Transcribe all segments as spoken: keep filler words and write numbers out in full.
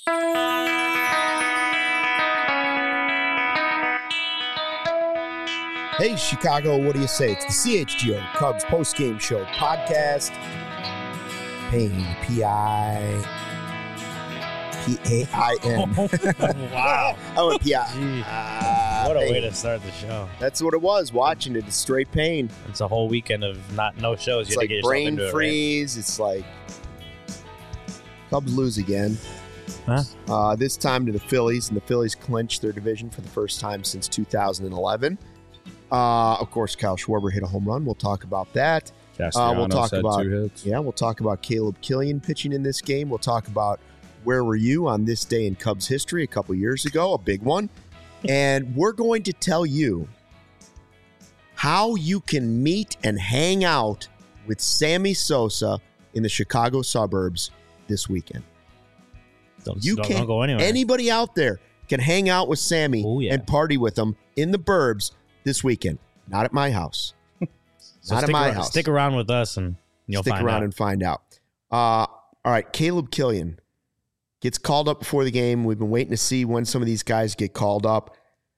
Hey, Chicago, what do you say? It's the C H G O Cubs postgame show podcast. Pain, P I P A I N. Wow. I went P I. Uh, what a pain. Way to start the show. That's what it was, watching it. It's straight pain. It's a whole weekend of not no shows. It's you like to get brain into freeze. It, right? It's like Cubs lose again. Huh? Uh, this time to the Phillies, and the Phillies clinched their division for the first time since two thousand eleven. Uh, of course, Kyle Schwarber hit a home run. We'll talk about that. Uh, we'll talk had about two hits. yeah. We'll talk about Caleb Killian pitching in this game. We'll talk about where were you on this day in Cubs history a couple years ago, a big one, and we're going to tell you how you can meet and hang out with Sammy Sosa in the Chicago suburbs this weekend. Don't, you don't, can don't go anywhere. Anybody out there can hang out with Sammy Ooh, yeah. and party with him in the burbs this weekend. Not at my house. So Not at my around, house. Stick around with us and you'll Stick find around out. and find out. Uh, all right, Caleb Killian gets called up before the game. We've been waiting to see when some of these guys get called up.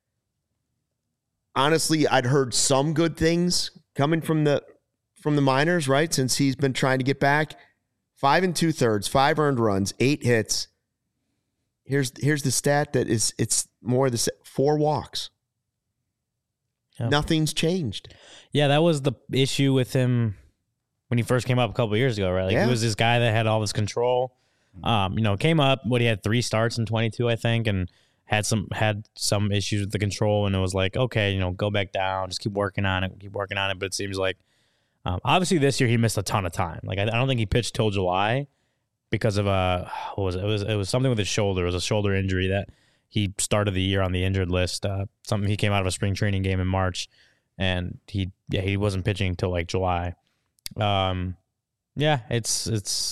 Honestly, I'd heard some good things coming from the from the minors, right? Since he's been trying to get back. Five and two thirds, five earned runs, eight hits. Here's here's the stat that is it's more the four walks. Yep. Nothing's changed. Yeah, that was the issue with him when he first came up a couple of years ago, right? Like yeah. He was this guy that had all this control. Um, you know, came up, what he had three starts in twenty-two, I think, and had some had some issues with the control, and it was like, okay, you know, go back down, just keep working on it, keep working on it. But it seems like um, obviously this year he missed a ton of time. Like I, I don't think he pitched till July because of a what was it? It was it was something with his shoulder. It was a shoulder injury that he started the year on the injured list. Uh, something he came out of a spring training game in March, and he yeah he wasn't pitching until like July. Um, yeah, it's it's.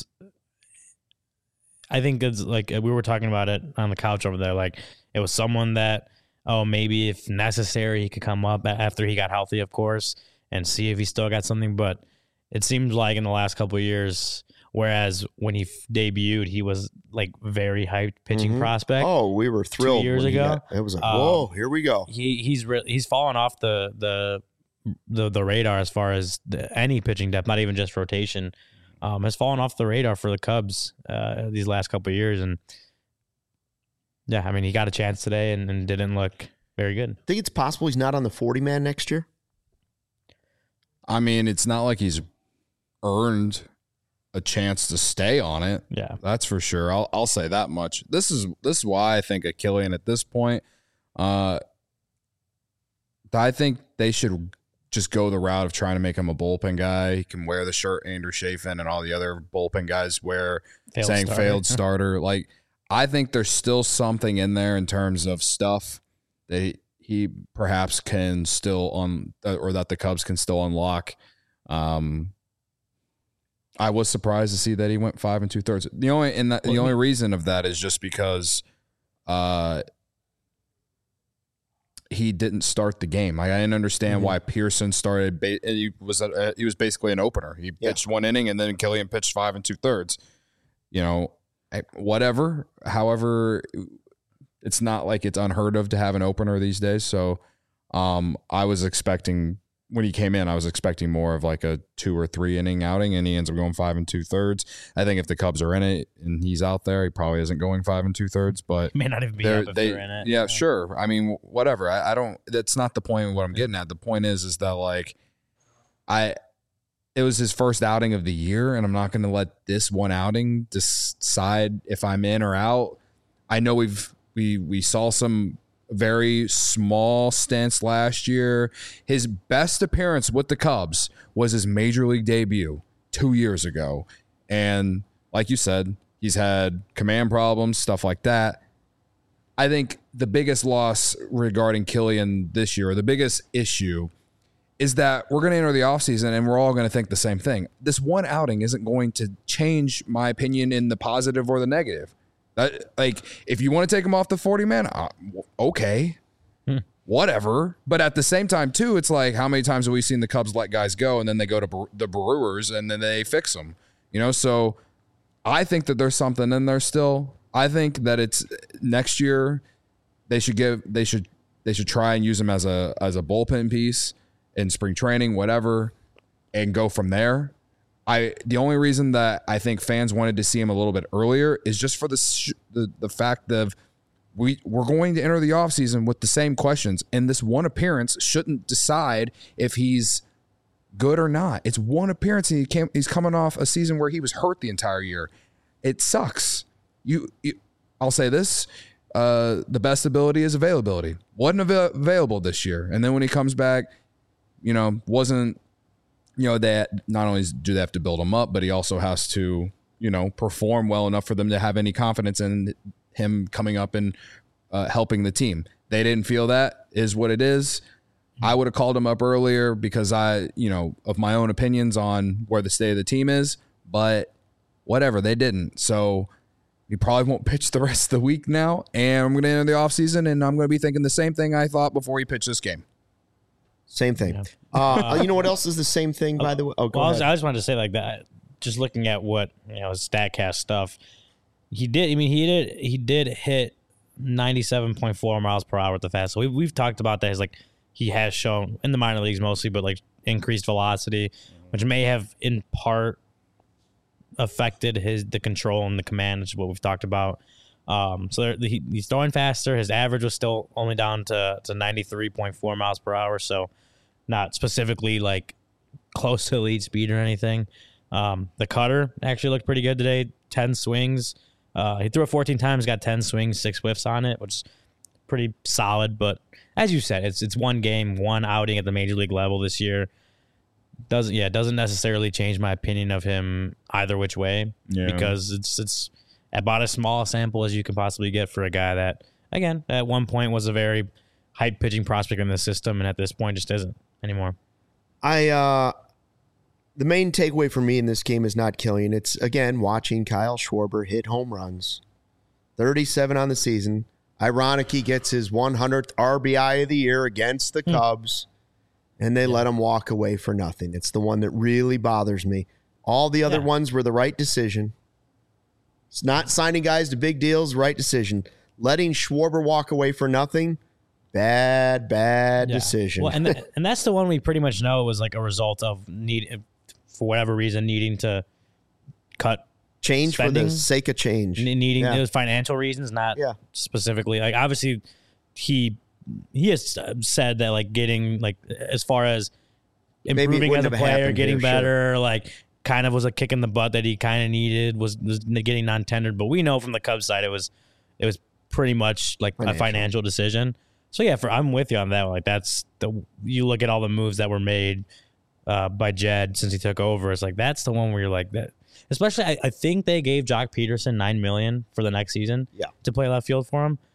I think it's like we were talking about it on the couch over there. Like it was someone that oh maybe if necessary he could come up after he got healthy, of course, and see if he still got something. But it seems like in the last couple of years. Whereas when he f- debuted, he was like very hyped pitching Mm-hmm. prospect. Oh, we were thrilled two years when he ago. got- it was like, Um, whoa, here we go. He he's re- he's fallen off the the the, the radar as far as the, any pitching depth, not even just rotation. Um, has fallen off the radar for the Cubs uh, these last couple of years, and yeah, I mean he got a chance today and, and didn't look very good. Think it's possible he's not on the forty man next year? I mean, it's not like he's earned a chance to stay on it. Yeah, that's for sure. I'll I'll say that much. This is this is why I think a Killian at this point. Uh, I think they should just go the route of trying to make him a bullpen guy. He can wear the shirt Andrew Chafin and all the other bullpen guys wear, failed saying starter. failed starter. Like I think there's still something in there in terms of stuff that he, he perhaps can still on or that the Cubs can still unlock. Um. I was surprised to see that he went five and two thirds. The only and that, the only reason of that is just because, uh, he didn't start the game. Like, I didn't understand mm-hmm. why Pearson started. Ba- he was a, he was basically an opener. He yeah. pitched one inning and then Killian pitched five and two thirds. You know, whatever. However, it's not like it's unheard of to have an opener these days. So, um, I was expecting. When he came in, I was expecting more of like a two or three inning outing, and he ends up going five and two thirds. I think if the Cubs are in it and he's out there, he probably isn't going five and two thirds. But he may not even be up if they, they're in it. Yeah, yeah, sure. I mean, whatever. I, I don't. That's not the point of what I'm getting at. The point is, is that like, I, it was his first outing of the year, and I'm not going to let this one outing decide if I'm in or out. I know we've we we saw some very small stints last year. His best appearance with the Cubs was his major league debut two years ago. And like you said, he's had command problems, stuff like that. I think the biggest loss regarding Killian this year, or the biggest issue, is that we're going to enter the offseason and we're all going to think the same thing. This one outing isn't going to change my opinion in the positive or the negative. That, like, if you want to take him off the forty man, uh, okay, hmm. whatever. But at the same time, too, it's like, how many times have we seen the Cubs let guys go and then they go to Bre- the Brewers and then they fix them? You know, so I think that there's something in there still. I think that it's next year they should give they should they should try and use him as a as a bullpen piece in spring training, whatever, and go from there. I the only reason that I think fans wanted to see him a little bit earlier is just for the sh- the, the fact of we we're going to enter the offseason with the same questions, and this one appearance shouldn't decide if he's good or not. It's one appearance, and he came, he's coming off a season where he was hurt the entire year. It sucks. You, you I'll say this: uh, the best ability is availability. Wasn't av- available this year, and then when he comes back, you know, wasn't. You know, that not only do they have to build him up, but he also has to, you know, perform well enough for them to have any confidence in him coming up and uh, helping the team. They didn't feel that is what it is. I would have called him up earlier because I, you know, of my own opinions on where the state of the team is, but whatever, they didn't. So he probably won't pitch the rest of the week now, and I'm going to enter the offseason, and I'm going to be thinking the same thing I thought before he pitched this game. Same thing. Yeah. Uh, you know what else is the same thing, by the way? Oh, go well, ahead. I, was, I just wanted to say like that. Just looking at what you know, StatCast stuff, he did. I mean, he did. He did hit ninety-seven point four miles per hour at the fastball. We, we've talked about that. As like he has shown in the minor leagues mostly, but like increased velocity, which may have in part affected his the control and the command, which is what we've talked about. Um, so there, he, he's throwing faster. His average was still only down to, to ninety-three point four miles per hour. So not specifically like close to lead speed or anything. Um, the cutter actually looked pretty good today. ten swings. Uh, he threw it fourteen times, got ten swings, six whiffs on it, which is pretty solid. But as you said, it's, it's one game, one outing at the major league level this year. Doesn't, yeah, doesn't necessarily change my opinion of him either which way yeah. because it's, it's, about as small a sample as you can possibly get for a guy that, again, at one point was a very hype pitching prospect in the system, and at this point just isn't anymore. I uh, the main takeaway for me in this game is not Killian. It's, again, watching Kyle Schwarber hit home runs. thirty-seven on the season. Ironic, he gets his one hundredth R B I of the year against the Cubs, hmm. and they yeah. let him walk away for nothing. It's the one that really bothers me. All the other yeah. ones were the right decision. It's not signing guys to big deals, right decision. Letting Schwarber walk away for nothing, bad, bad yeah. decision. Well, and th- and that's the one we pretty much know was like a result of need, for whatever reason, needing to cut change spending, for the sake of change. Needing yeah. those financial reasons, not yeah. specifically. Like obviously, he he has said that like getting like as far as improving as a player, getting here, better, sure. like. Kind of was a kick in the butt that he kind of needed, was, was getting non-tendered. But we know from the Cubs side, it was it was pretty much like financial. a financial decision. So yeah, for I'm with you on that. Like that's the you look at all the moves that were made uh, by Jed since he took over. It's like that's the one where you're like that. Especially, I, I think they gave Jock Peterson nine million for the next season. Yeah. to play left field for him.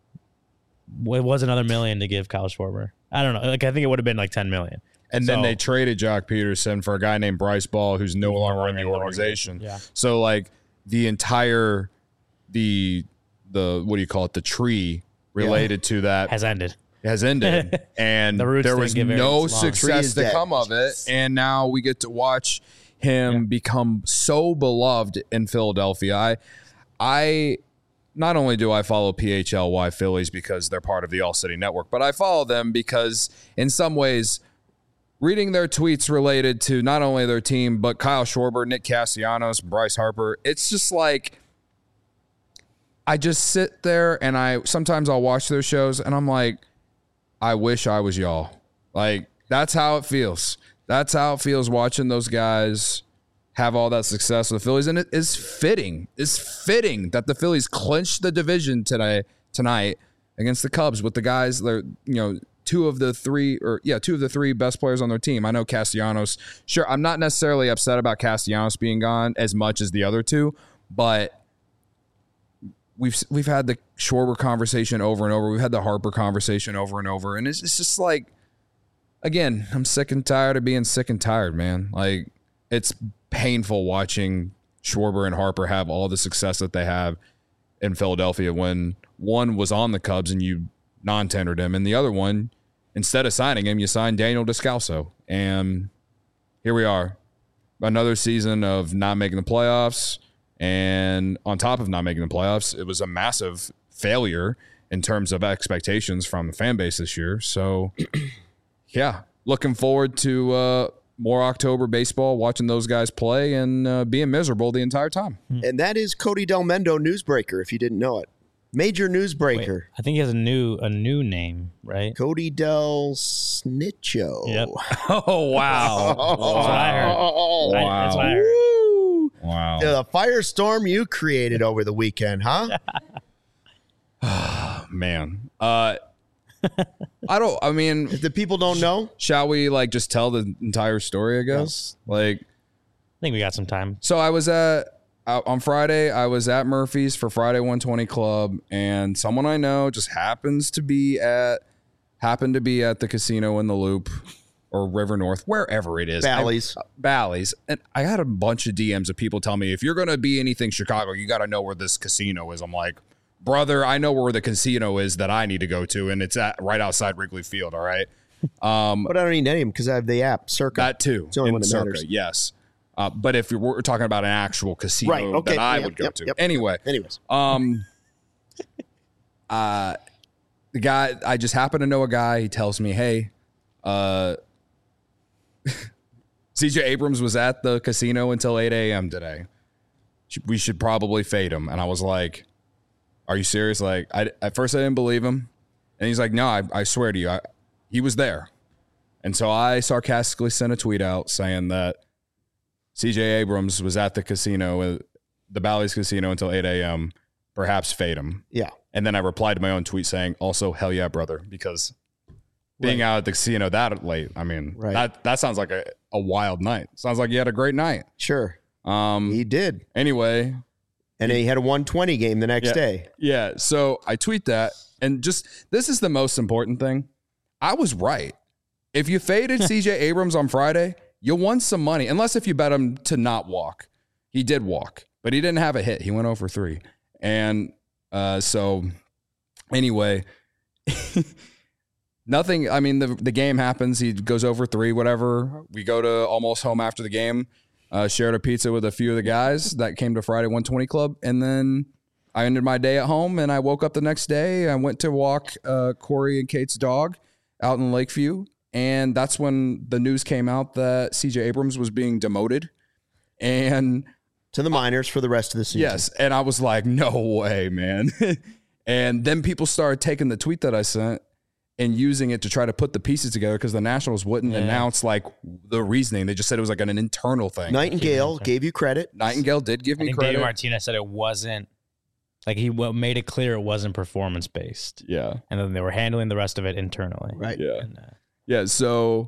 It was another million to give Kyle Schwarber. I don't know. Like I think it would have been like ten million. And then so, they traded Jock Peterson for a guy named Bryce Ball, who's no longer in the organization. Yeah. So, like, the entire, the, the what do you call it, the tree related yeah. to that. Has ended. Has ended. And the there was no success to come of it. And now we get to watch him yeah. become so beloved in Philadelphia. I, I not only do I follow P H L Y Phillies because they're part of the All City Network, but I follow them because in some ways – reading their tweets related to not only their team, but Kyle Schwarber, Nick Castellanos, Bryce Harper, it's just like I just sit there and I sometimes I'll watch their shows and I'm like, I wish I was y'all. Like, that's how it feels. That's how it feels watching those guys have all that success with the Phillies. And it is fitting. It's fitting that the Phillies clinched the division today, tonight against the Cubs with the guys that are, you know, two of the three or yeah, two of the three best players on their team. I know Castellanos. Sure, I'm not necessarily upset about Castellanos being gone as much as the other two, but we've we've had the Schwarber conversation over and over. We've had the Harper conversation over and over, and it's, it's just like, again, I'm sick and tired of being sick and tired, man. Like, it's painful watching Schwarber and Harper have all the success that they have in Philadelphia when one was on the Cubs and you non-tendered him, and the other one, instead of signing him, you signed Daniel Descalso. And here we are. Another season of not making the playoffs, And on top of not making the playoffs, it was a massive failure in terms of expectations from the fan base this year. So, yeah, looking forward to uh, more October baseball, watching those guys play, and uh, being miserable the entire time. And that is Cody Delmendo, newsbreaker, if you didn't know it. Major newsbreaker. Wait, I think he has a new a new name, right? Cody Del Snitcho. Yep. Oh, wow. That's what I heard. Oh, Right, that's what I heard. Woo. Wow. The firestorm you created over the weekend, huh? Man. Uh, I don't, I mean, If the people don't know, shall we like just tell the entire story, I guess? Like, I think we got some time. so I was at, out on Friday, I was at Murphy's for Friday one twenty Club, and someone I know just happens to be at, happened to be at the casino in the Loop or River North, wherever it is. Bally's. I, Bally's. And I had a bunch of D Ms of people tell me, if you're going to be anything Chicago, you got to know where this casino is. I'm like, brother, I know where the casino is that I need to go to, and it's at right outside Wrigley Field, all right? Um, But I don't need any of them because I have the app, Circa. that too. It's the only in one that Circa, matters. yes. Uh, but if we're talking about an actual casino Right, okay, that I yep, would go yep, to. yep. Anyway, Anyways. um, uh, the guy, I just happen to know a guy. He tells me, hey, uh, C J Abrams was at the casino until eight a.m. today. We should probably fade him. And I was like, are you serious? Like, I, at first I didn't believe him. And he's like, no, I, I swear to you, I, he was there. And so I sarcastically sent a tweet out saying that C J Abrams was at the casino, uh, the Bally's casino until eight a.m., perhaps fade him. Yeah. And then I replied to my own tweet saying, also, hell yeah, brother, because being Right. out at the casino that late, I mean, Right. that, that sounds like a, a wild night. Sounds like you had a great night. Sure. Um. He did. Anyway, And he had a one twenty game the next Yeah. day. yeah, so I tweet that, and just, this is the most important thing. I was right. If you faded C J Abrams on Friday, you won some money, unless if you bet him to not walk. He did walk, but he didn't have a hit. He went oh for three. And uh, so anyway, nothing. I mean, the, the game happens. He goes over three, whatever. We go to almost home after the game, uh, shared a pizza with a few of the guys that came to Friday one twenty Club. And then I ended my day at home, and I woke up the next day. I went to walk uh, Corey and Kate's dog out in Lakeview. And that's when the news came out that C J Abrams was being demoted. And To the minors for the rest of the season. yes, and I was like, no way, man. And then people started taking the tweet that I sent and using it to try to put the pieces together because the Nationals wouldn't Yeah. announce like the reasoning. They just said it was like an, an internal thing. Nightingale gave you credit. Nightingale did give I me think credit. David Martinez said it wasn't like he w- made it clear it wasn't performance based, yeah. and then they were handling the rest of it internally. Right. Yeah. And, uh, Yeah, so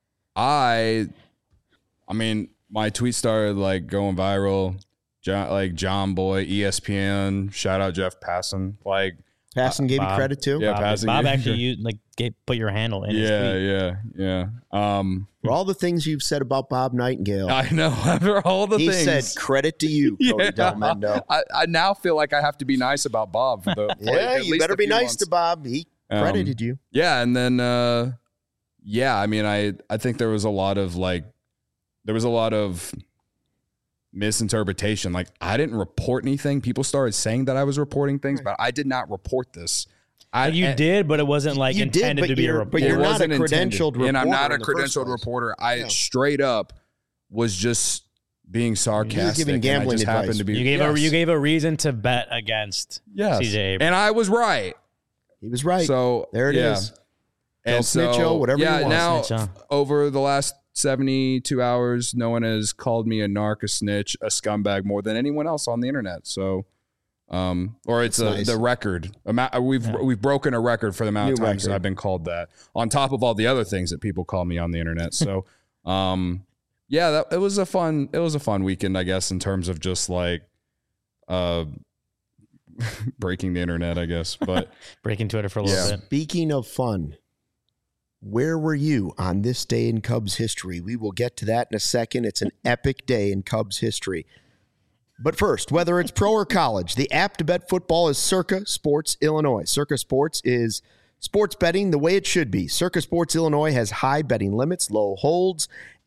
I, I mean, my tweet started like going viral. John, like John Boy, E S P N, shout out Jeff Passan. Like, Passon gave you Bob. credit too. Yeah, Bob, passing Bob it. actually used, like gave, put your handle in his yeah, tweet. yeah, yeah. Um, For all the things you've said about Bob Nightingale, I know. After all the he things, said credit to you, Cody Yeah. Delmendo. I, I now feel like I have to be nice about Bob. For the, for Yeah, at you least better a be few nice months. to Bob. He Um, credited you. Yeah, and then uh yeah, I mean I I think there was a lot of like there was a lot of misinterpretation. Like I didn't report anything. People started saying that I was reporting things, but I did not report this. I Like, you and- did, but it wasn't like You did, intended but to be a you're- report. but you're it not a wasn't intended. credentialed and I'm not reporter a in the first credentialed place. reporter. I Yeah. straight up was just being sarcastic. giving and gambling I just advice. happened to be you gave yes. a you gave a reason to bet against yes. C J Abrams. And I was right. He was right. So there it is. yeah. Del And so, Snitcho, whatever you yeah, want. now Snitcho. over the last seventy-two hours, no one has called me a narc, a snitch, a scumbag more than anyone else on the internet. So, um, or it's That's a, nice. the record. Amount- We've Yeah. we've broken a record for the amount New of times that record. I've been called that. On top of all the other things that people call me on the internet. So, um, yeah, that it was a fun it was a fun weekend, I guess, in terms of just like, uh, breaking the internet, I guess. But breaking Twitter for a little Yeah. bit. Speaking of fun, where were you on this day in Cubs history? We will get to that in a second. It's an epic day in Cubs history. But first, whether it's pro or college, the app to bet football is Circa Sports Illinois. Circa Sports is sports betting the way it should be. Circa Sports Illinois has high betting limits, low holds,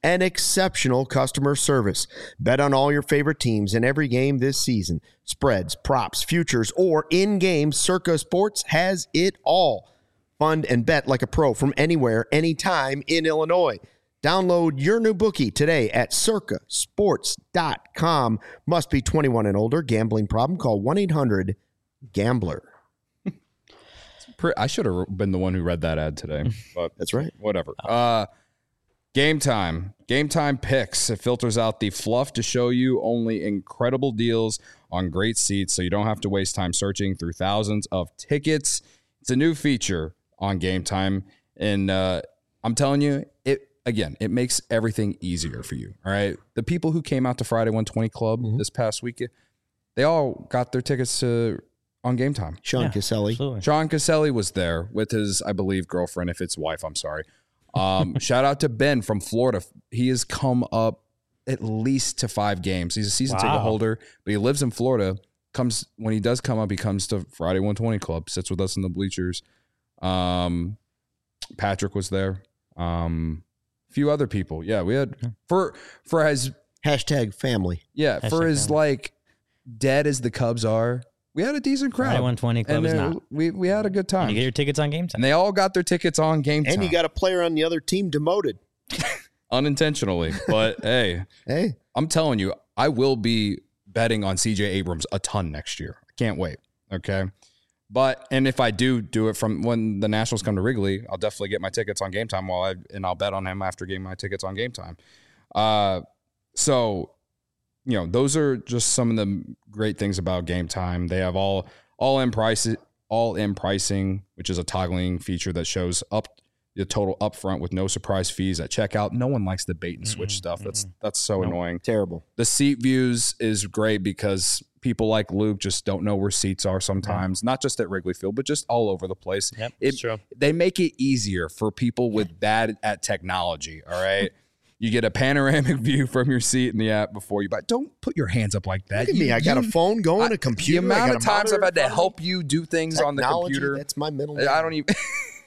and exceptional customer service. Bet on all your favorite teams in every game this season. Spreads, props, futures, or in-game, Circa Sports has it all. Fund and bet like a pro from anywhere, anytime in Illinois. Download your new bookie today at circa sports dot com. Must be twenty-one and older. Gambling problem? Call one eight hundred gambler. I should have been the one who read that ad today, but That's right. Whatever. Uh, Game Time. Game Time Picks. It filters out the fluff to show you only incredible deals on great seats, so you don't have to waste time searching through thousands of tickets. It's a new feature on Game Time, and uh, I'm telling you, it again, it makes everything easier for you. All right, the people who came out to Friday one twenty Club mm-hmm. this past weekend, they all got their tickets to on Game Time. Sean yeah, Caselli. Absolutely. Sean Caselli was there with his, I believe, girlfriend. If it's wife, I'm sorry. Um, shout out to Ben from Florida. He has come up at least to five games. He's a season wow. ticket holder, but he lives in Florida. Comes when he does come up, he comes to Friday one twenty Club, sits with us in the bleachers. Um, Patrick was there. Um, a few other people. Yeah, we had for for his hashtag family. Yeah, hashtag for his family. Like dead as the Cubs are. We had a decent crowd. Friday one twenty Club and is uh, not. We we had a good time. And you get your tickets on Game Time. And they all got their tickets on Game Time. And you got a player on the other team demoted. Unintentionally. But hey, hey, I'm telling you, I will be betting on C J Abrams a ton next year. I can't wait. Okay. But, and if I do do it from when the Nationals come to Wrigley, I'll definitely get my tickets on Game Time while I, and I'll bet on him after getting my tickets on Game Time. Uh, so, you know, those are just some of the great things about Game Time. They have all, all in prices, all in pricing, which is a toggling feature that shows up the total upfront with no surprise fees at checkout. No one likes the bait and switch mm-hmm, stuff. That's, mm-hmm. that's so nope. annoying. Terrible. The seat views is great because people like Luke just don't know where seats are sometimes, yeah. not just at Wrigley Field, but just all over the place. Yep, it, that's true. They make it easier for people with bad at technology. All right. You get a panoramic view from your seat in the app before you buy. Don't put your hands up like that. Look at you, me. I got you, a phone going, a computer. The amount of times I've had to phone. help you do things Technology, on the computer. That's my middle name. I don't even.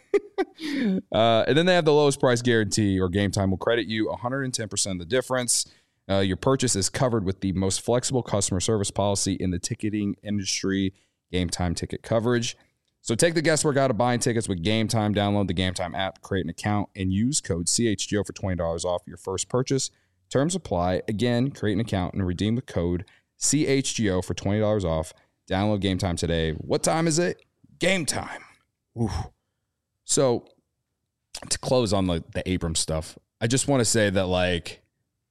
uh, and then they have the lowest price guarantee, or Game Time will credit you one hundred ten percent of the difference. Uh, your purchase is covered with the most flexible customer service policy in the ticketing industry, Game Time ticket coverage. So take the guesswork out of buying tickets with Game Time. Download the Game Time app, create an account, and use code C H G O for twenty dollars off your first purchase. Terms apply. Again, create an account and redeem the code C H G O for twenty dollars off. Download Game Time today. What time is it? Game time. Oof. So to close on the, the Abrams stuff, I just want to say that, like,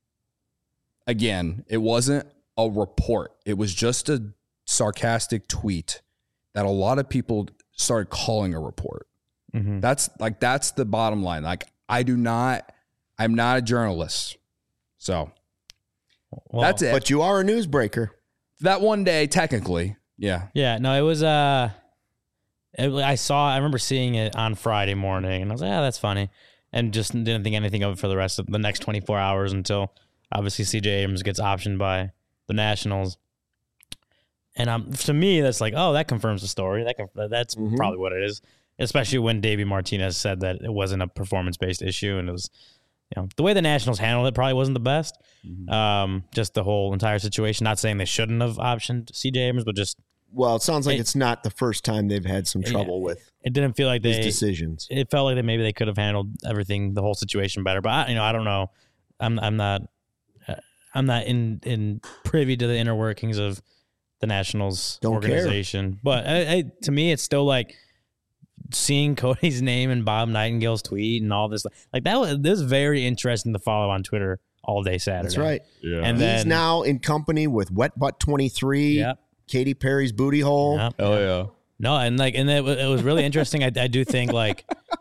again, it wasn't a report. It was just a sarcastic tweet that a lot of people started calling a report. Mm-hmm. That's like, that's the bottom line. Like, I do not, I'm not a journalist. So well, that's it. But you are a newsbreaker. That one day, technically. Yeah. Yeah. No, it was, uh, it, I saw, I remember seeing it on Friday morning and I was like, yeah, that's funny. And just didn't think anything of it for the rest of the next twenty-four hours until obviously C J Abrams gets optioned by the Nationals. And um, to me, that's like, oh, that confirms the story. That conf- That's mm-hmm. probably what it is, especially when Davey Martinez said that it wasn't a performance-based issue. And it was, you know, the way the Nationals handled it probably wasn't the best. Mm-hmm. Um, just the whole entire situation. Not saying they shouldn't have optioned C J Abrams, but just. Well, it sounds like it, it's not the first time they've had some trouble yeah, with. It didn't feel like they decisions. It felt like that maybe they could have handled everything, the whole situation better. But I, you know, I don't know. I'm I'm not uh, I'm not in in privy to the inner workings of the Nationals don't organization. Care. But I, I, to me, it's still like seeing Cody's name and Bob Nightingale's tweet and all this. Like that was this was very interesting to follow on Twitter all day Saturday. That's right. Yeah. And he's then, now in company with Wet Butt twenty-three. Yep. Katy Perry's booty hole. Yep. Oh yeah. No, and like, and it, it was really interesting. I, I do think like,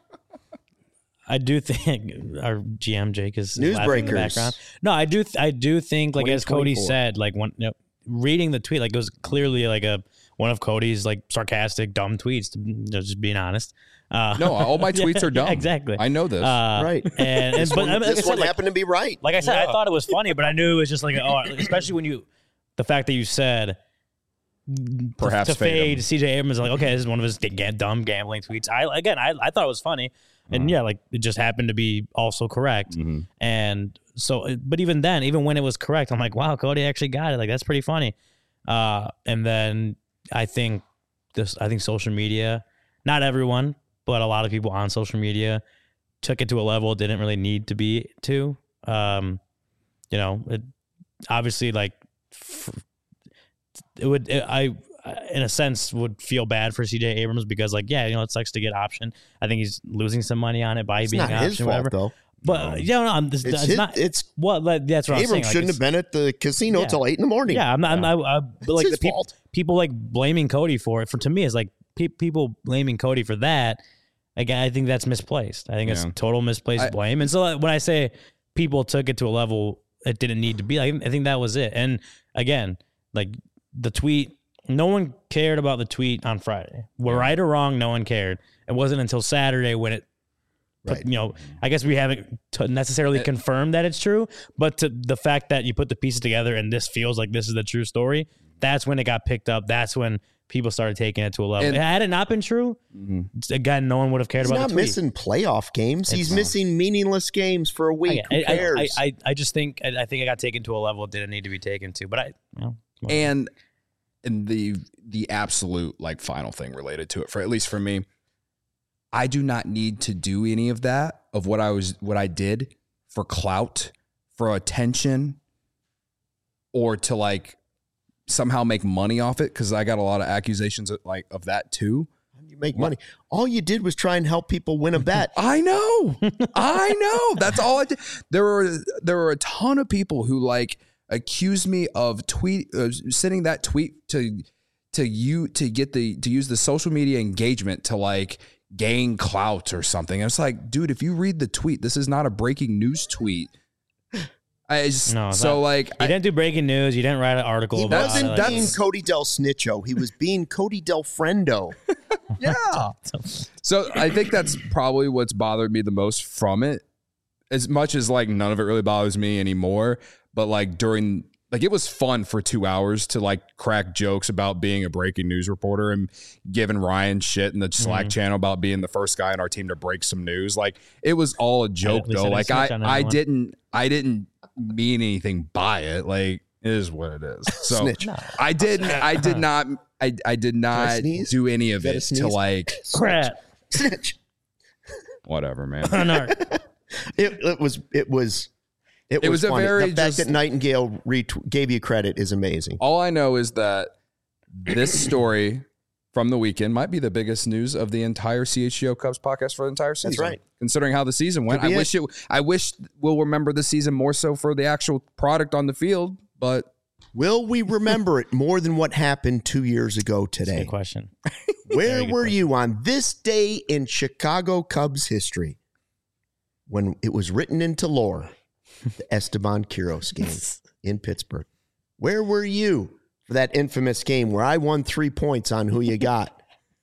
I do think our G M Jake is laughing in the background. No, I do, th- I do think like as Cody said, like when you know, reading the tweet, like it was clearly like a one of Cody's like sarcastic, dumb tweets. To, you know, just being honest. Uh, no, all my tweets yeah, are dumb. Yeah, exactly. I know this. Uh, right. And, and this but one, like this said, one like, happened to be right. Like I said, yeah. I thought it was funny, but I knew it was just like, oh, especially when you, the fact that you said. Perhaps to, to fade him. C J Abrams, like, okay, this is one of his g- dumb gambling tweets. I again, I, I thought it was funny, and uh-huh. yeah, like it just happened to be also correct. Mm-hmm. And so, but even then, even when it was correct, I'm like, wow, Cody actually got it. Like, that's pretty funny. Uh, and then I think this, I think social media, not everyone, but a lot of people on social media took it to a level it didn't really need to be to. Um, you know, it obviously like it would, it, I, in a sense, would feel bad for C J Abrams because, like, yeah, you know, it sucks to get option. I think he's losing some money on it by It's being not option, his fault, whatever. though. But no. yeah, no, I'm, it's, It's, it's his, not. it's Well, like, that's what I'm saying. Abrams Like, shouldn't have been at the casino Yeah. till eight in the morning. Yeah, I'm not. I'm not I, but like his the peop- fault. people like blaming Cody for it. For to me, is like pe- people blaming Cody for that. Again, I think that's misplaced. I think Yeah. it's total misplaced I- blame. And so like, when I say people took it to a level it didn't need to be, like, I think that was it. And again, like the tweet. No one cared about the tweet on Friday. We're Yeah. right or wrong, no one cared. It wasn't until Saturday when it, put, Right. you know, I guess we haven't t- necessarily It- confirmed that it's true, but to the fact that you put the pieces together and this feels like this is the true story, that's when it got picked up. That's when people started taking it to a level. And- Had it not been true, Mhm. again, no one would have cared He's about not the tweet. missing playoff games. He's It's- missing meaningless games for a week. I, Who I, cares? I, I, I just think I, I think I got taken to a level it didn't need to be taken to. But I, you know, whatever. And and the the absolute like final thing related to it, for at least for me, I do not need to do any of that of what I was what I did for clout, for attention, or to like somehow make money off it, because I got a lot of accusations of, like of that too. you make money. All you did was try and help people win a bet. I know. I know. That's all I did. There were there were a ton of people who like accused me of tweet uh, sending that tweet to to you to get the to use the social media engagement to like gain clout or something. I was like, dude, if you read the tweet, this is not a breaking news tweet. I just, No, it's so not. like you I, didn't do breaking news. You didn't write an article He about wasn't it. Like, being that's- Cody Del Snitcho. He was being Cody Del Friendo. yeah. So I think that's probably what's bothered me the most from it. As much as like none of it really bothers me anymore, but like during like it was fun for two hours to like crack jokes about being a breaking news reporter and giving Ryan shit in the Slack Mhm. channel about being the first guy on our team to break some news. Like it was all a joke at least though. I Like didn't I snitch on I anyone. didn't I didn't mean anything by it. Like it is what it is. So Snitch. no. I didn't I did not I I did not sneeze? do any of Is that a it to sneeze? like Crap. Snitch. whatever, man. No. It, it was. It was. It, It was, was a funny. very The fact just- that Nightingale ret- gave you credit is amazing. All I know is that this story from the weekend might be the biggest news of the entire C H G O Cubs podcast for the entire season. right. Considering how the season went, Could I be wish it. I wish we'll remember the season more so for the actual product on the field. But Will we remember it more than what happened two years ago today? Good question. Where Very good were question. you on this day in Chicago Cubs history when it was written into lore, the Esteban Quiroz game in Pittsburgh? Where were you for that infamous game where I won three points on who you got?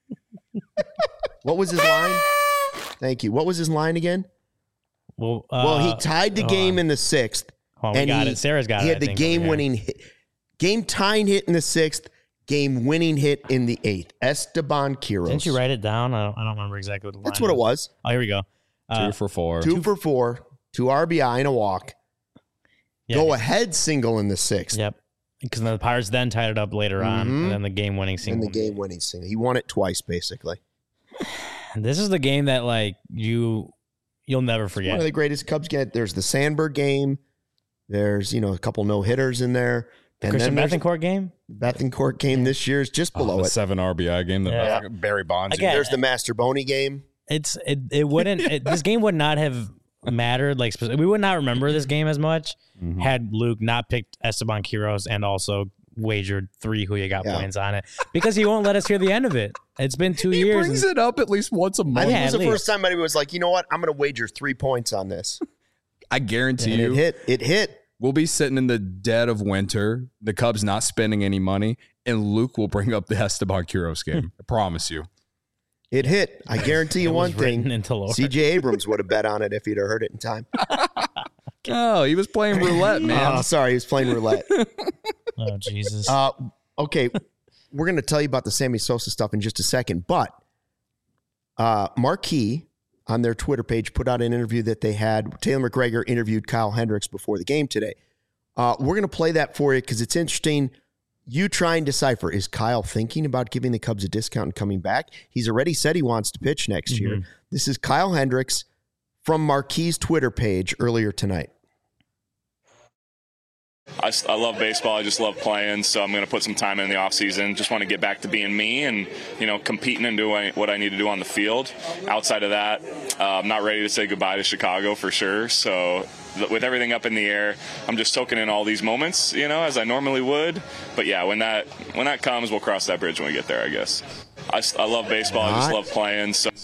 What was his line? Thank you. What was his line again? Well, uh, Well, he tied the hold game on. in the sixth. Hold on, we and got he- it. Sarah's got He it. had I the think, over here. game-winning hit, game-tying hit in the sixth, game-winning hit in the eighth. Esteban Quiroz. Didn't you write it down? I don't, I don't remember exactly what the That's line what it was. Oh, here we go. Uh, two for four. Two for four, two R B I and a walk. yeah, Go ahead single in the sixth. Yep. Because the Pirates then tied it up later on, Mhm. and then the game-winning And single. the game-winning single. He won it twice, basically. This is the game that like you you'll never One forget. of the greatest Cubs get. There's the Sandberg game. There's, you know, a couple no-hitters in there. The And Christian then there's Bethancourt game. Bethancourt game this year is just below Oh, the it. seven R B I game that Yeah. Barry Bonds. Again, There's the Master Boney game. It's it it wouldn't it, this game would not have mattered like speci- we would not remember this game as much Mhm. had Luke not picked Esteban Quiroz and also wagered three who you got Yeah. points on it because he won't let us hear the end of it. It's been two He years. brings and- it up at least once a I month. think Yeah, it was at the least. first time anybody was like, you know what? I'm going to wager three points on this. I guarantee And it you, hit. It hit. we'll be sitting in the dead of winter, the Cubs not spending any money, and Luke will bring up the Esteban Quiroz game. I promise you. It hit. I guarantee you it one was written thing. into lore. C J Abrams would have bet on it if he'd have heard it in time. Oh, he was playing roulette, man. Oh, sorry. He was playing roulette. Oh Jesus! Uh, okay. We're going to tell you about the Sammy Sosa stuff in just a second. But uh, Marquee on their Twitter page put out an interview that they had. Taylor McGregor interviewed Kyle Hendricks before the game today. Uh, we're going to play that for you because it's interesting. You try and decipher, is Kyle thinking about giving the Cubs a discount and coming back? He's already said he wants to pitch next mm-hmm. year. This is Kyle Hendricks from Marquis' Twitter page earlier tonight. I, I love baseball. I just love playing, so I'm going to put some time in the offseason. Just want to get back to being me and, you know, competing and doing what I need to do on the field. Outside of that, uh, I'm not ready to say goodbye to Chicago for sure. So th- with everything up in the air, I'm just soaking in all these moments, you know, as I normally would. But, yeah, when that when that comes, we'll cross that bridge when we get there, I guess. I, I love baseball. Not, I just love playing. So.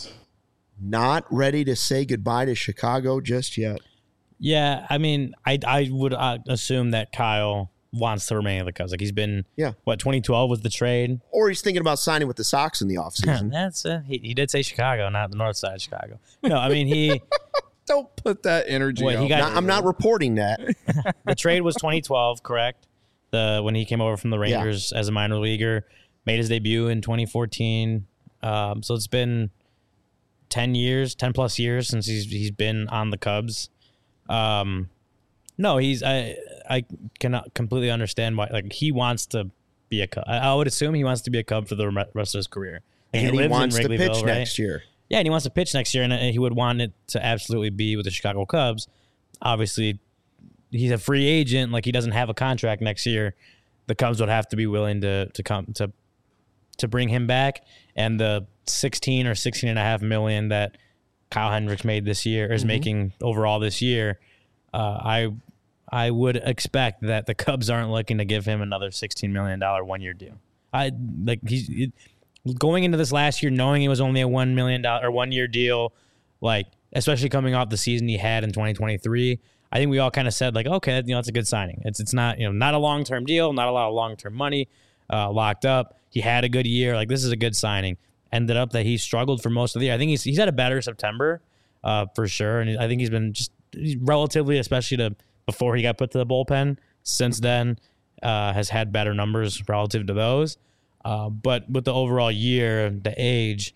Not ready to say goodbye to Chicago just yet. Yeah, I mean, I I would uh, assume that Kyle wants to remain in the Cubs. Like he's been, yeah. what, twenty twelve was the trade? Or he's thinking about signing with the Sox in the offseason. That's uh, he, he did say Chicago, not the north side of Chicago. No, I mean, he... Don't put that energy what, out. He got, not, I'm not reporting that. The trade was twenty twelve, correct? The When he came over from the Rangers yeah. as a minor leaguer, made his debut in twenty fourteen. Um, so it's been ten years, ten plus years since he's he's been on the Cubs. Um, no, he's I I cannot completely understand why. Like he wants to be a Cub. I, I would assume he wants to be a Cub for the rest of his career. Like and he, he wants to pitch right? next year. Yeah, and he wants to pitch next year, and he would want it to absolutely be with the Chicago Cubs. Obviously, he's a free agent. Like he doesn't have a contract next year. The Cubs would have to be willing to to come to to bring him back, and the sixteen or sixteen and a half million that Kyle Hendricks made this year is mm-hmm. making overall this year. Uh, I I would expect that the Cubs aren't looking to give him another sixteen million dollars one year deal. I like he's it, going into this last year knowing it was only a one million dollars or one year deal, like especially coming off the season he had in twenty twenty-three. I think we all kind of said like, okay, you know, it's a good signing. It's it's not you know not a long term deal, not a lot of long term money uh, locked up. He had a good year. Like this is a good signing. Ended up that he struggled for most of the year. I think he's he's had a better September uh, for sure, and I think he's been just relatively, especially to before he got put to the bullpen. Since then, uh, has had better numbers relative to those. Uh, but with the overall year, the age,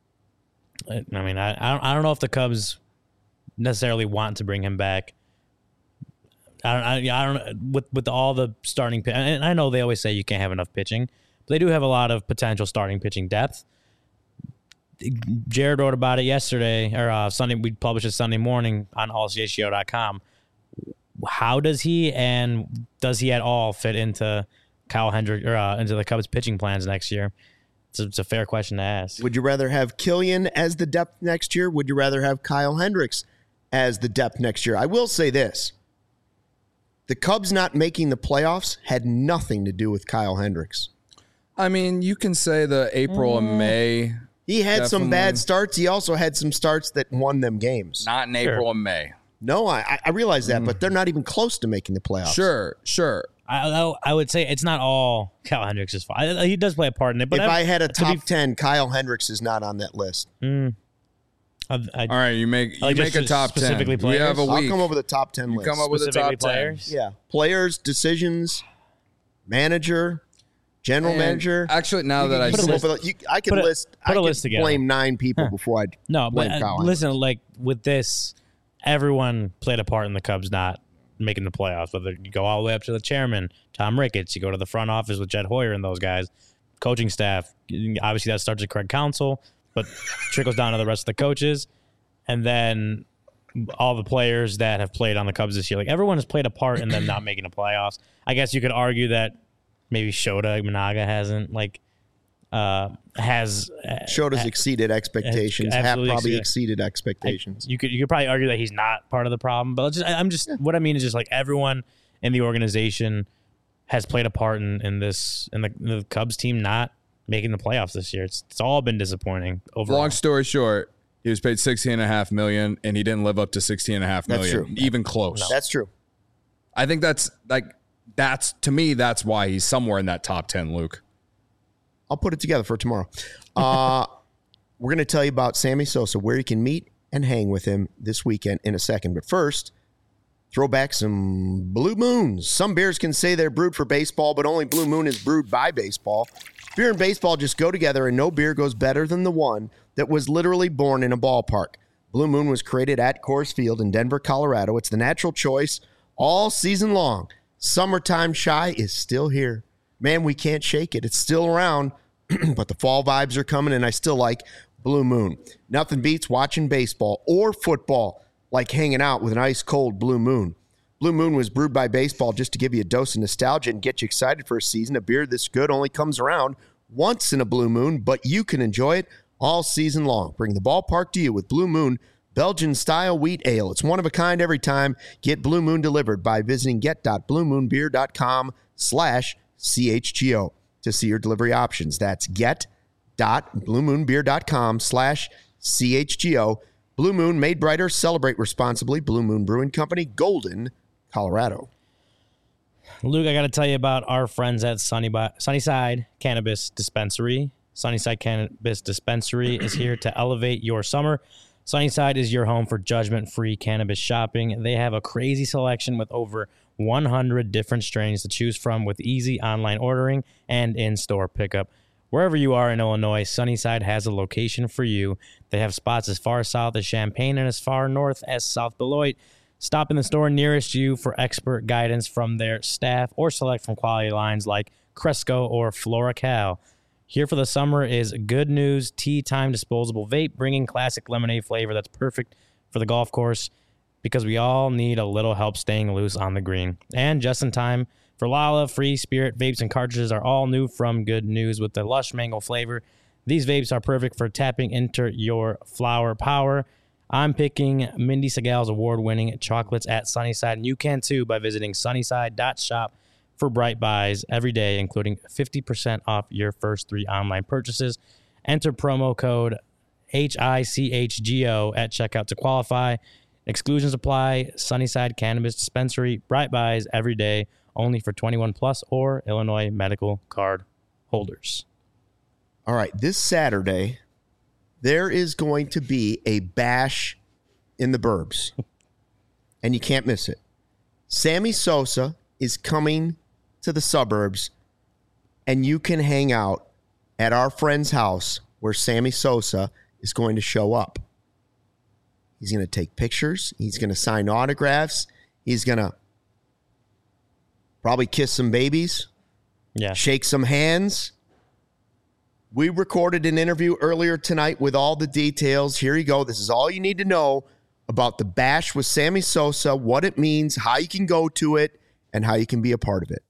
I mean, I I don't, I don't know if the Cubs necessarily want to bring him back. I don't I, I don't with with all the starting and I know they always say you can't have enough pitching, but they do have a lot of potential starting pitching depth. Jared wrote about it yesterday, or uh, Sunday. We published it Sunday morning on all c h g o dot com. How does he and does he at all fit into Kyle Hendricks or uh, into the Cubs pitching plans next year? It's a, it's a fair question to ask. Would you rather have Killian as the depth next year? Would you rather have Kyle Hendricks as the depth next year? I will say this. The Cubs not making the playoffs had nothing to do with Kyle Hendricks. I mean, you can say the April mm. and May... He had Definitely. some bad starts. He also had some starts that won them games. Not in April sure. and May. No, I, I realize that, mm. but they're not even close to making the playoffs. Sure, sure. I I would say it's not all Kyle Hendricks' fault. He does play a part in it. But if I, I had a top be, ten, Kyle Hendricks is not on that list. Mm, I, I, all right, you make you like make a top specifically ten. Players? We have a week. I'll come up with a top ten you list. Come up with a top players? ten. Yeah, players, decisions, manager. General and manager. Actually, now that I put list, a, you, I can put list. A, put I a list together. Blame nine people before I no. Blame But Kyle uh, listen, like with this, everyone played a part in the Cubs not making the playoffs. Whether you go all the way up to the chairman, Tom Ricketts, you go to the front office with Jed Hoyer and those guys, coaching staff. Obviously, that starts at Craig Counsell, but trickles down to the rest of the coaches, and then all the players that have played on the Cubs this year. Like everyone has played a part in them not making the playoffs. I guess you could argue that. Maybe Shota Managa hasn't like uh, has Shota's ha, exceeded expectations. Have probably exceeded, exceeded expectations. I, you could you could probably argue that he's not part of the problem, but just, I, I'm just yeah. what I mean is just like everyone in the organization has played a part in, in this in the, in the Cubs team not making the playoffs this year. It's it's all been disappointing overall. Long story short, he was paid sixteen and a half million, and he didn't live up to sixteen and a half million. That's true. Even close. No. That's true. I think that's like. That's to me. That's why he's somewhere in that top ten, Luke. I'll put it together for tomorrow. Uh, we're going to tell you about Sammy Sosa, where you can meet and hang with him this weekend in a second. But first, throw back some Blue Moons. Some beers can say they're brewed for baseball, but only Blue Moon is brewed by baseball. Beer and baseball just go together, and no beer goes better than the one that was literally born in a ballpark. Blue Moon was created at Coors Field in Denver, Colorado. It's the natural choice all season long. Summertime shy is still here. Man, we can't shake it. It's still around, but the fall vibes are coming, and I still like Blue Moon. Nothing beats watching baseball or football like hanging out with an ice-cold Blue Moon. Blue Moon was brewed by baseball just to give you a dose of nostalgia and get you excited for a season. A beer this good only comes around once in a Blue Moon, but you can enjoy it all season long. Bring the ballpark to you with Blue Moon Belgian-style wheat ale. It's one of a kind every time. Get Blue Moon delivered by visiting get.bluemoonbeer.com slash CHGO to see your delivery options. That's get.bluemoonbeer.com slash CHGO. Blue Moon, made brighter, celebrate responsibly. Blue Moon Brewing Company, Golden, Colorado. Luke, I got to tell you about our friends at Sunny Bi- Sunnyside Cannabis Dispensary. Sunnyside Cannabis Dispensary is here to elevate your summer. Sunnyside is your home for judgment-free cannabis shopping. They have a crazy selection with over one hundred different strains to choose from with easy online ordering and in-store pickup. Wherever you are in Illinois, Sunnyside has a location for you. They have spots as far south as Champaign and as far north as South Beloit. Stop in the store nearest you for expert guidance from their staff or select from quality lines like Cresco or FloraCal. Here for the summer is Good News Tea Time Disposable Vape, bringing classic lemonade flavor that's perfect for the golf course because we all need a little help staying loose on the green. And just in time for Lala, Free Spirit vapes and cartridges are all new from Good News with the lush mango flavor. These vapes are perfect for tapping into your flower power. I'm picking Mindy Segal's award-winning chocolates at Sunnyside, and you can too by visiting sunnyside dot shop for Bright Buys every day, including fifty percent off your first three online purchases. Enter promo code H I C H G O at checkout to qualify. Exclusions apply. Sunnyside Cannabis Dispensary, Bright Buys every day, only for twenty-one plus or Illinois medical card holders. All right, this Saturday, there is going to be a bash in the burbs, and you can't miss it. Sammy Sosa is coming to the suburbs, and you can hang out at our friend's house where Sammy Sosa is going to show up. He's going to take pictures. He's going to sign autographs. He's going to probably kiss some babies, yeah, shake some hands. We recorded an interview earlier tonight with all the details. Here you go. This is all you need to know about the bash with Sammy Sosa, what it means, how you can go to it, and how you can be a part of it.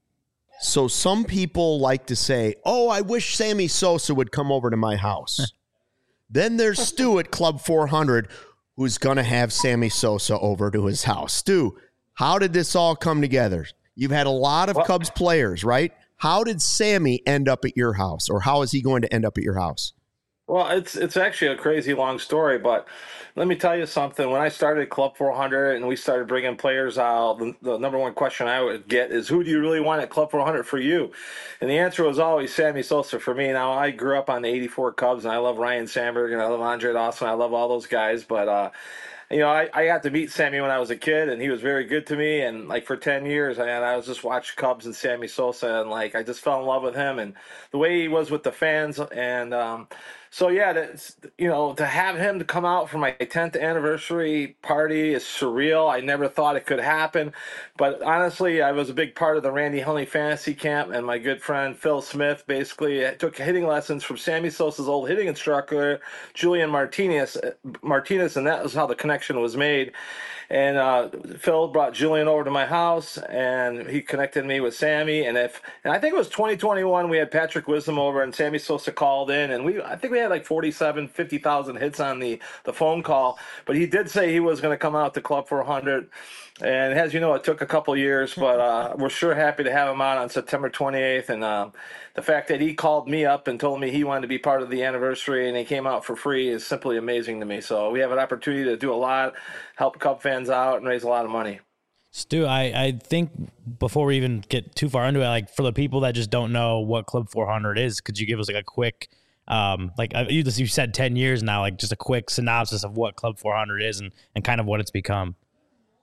So some people like to say, oh, I wish Sammy Sosa would come over to my house. Then there's Stu at Club four hundred, who's going to have Sammy Sosa over to his house. Stu, how did this all come together? You've had a lot of well, Cubs players, right? How did Sammy end up at your house, or how is he going to end up at your house? Well, it's it's actually a crazy long story, but let me tell you something. When I started Club four hundred and we started bringing players out, the, the number one question I would get is, who do you really want at Club four hundred for you? And the answer was always Sammy Sosa for me. Now, I grew up on the eighty-four Cubs, and I love Ryan Sandberg, and I love Andre Dawson. I love all those guys, but uh, you know, I, I got to meet Sammy when I was a kid, and he was very good to me. And like for ten years, and I was just watching Cubs and Sammy Sosa, and like I just fell in love with him and the way he was with the fans. And um, so yeah, that's, you know, to have him to come out for my tenth anniversary party is surreal. I never thought it could happen, but honestly, I was a big part of the Randy Hunley fantasy camp, and my good friend Phil Smith basically took hitting lessons from Sammy Sosa's old hitting instructor, Julian Martinez. Martinez, and that was how the connection was made. And uh, Phil brought Julian over to my house, and he connected me with Sammy. And if and I think it was twenty twenty-one, we had Patrick Wisdom over, and Sammy Sosa called in, and we I think we had like forty-seven, fifty thousand hits on the, the phone call. But he did say he was going to come out to Club four hundred. And as you know, it took a couple years, but uh, we're sure happy to have him out on September twenty-eighth. And uh, the fact that he called me up and told me he wanted to be part of the anniversary and he came out for free is simply amazing to me. So we have an opportunity to do a lot, help Cub fans out, and raise a lot of money. Stu, I, I think before we even get too far into it, like for the people that just don't know what Club four hundred is, could you give us like a quick, um, like you just you said ten years now, like just a quick synopsis of what Club four hundred is and, and kind of what it's become?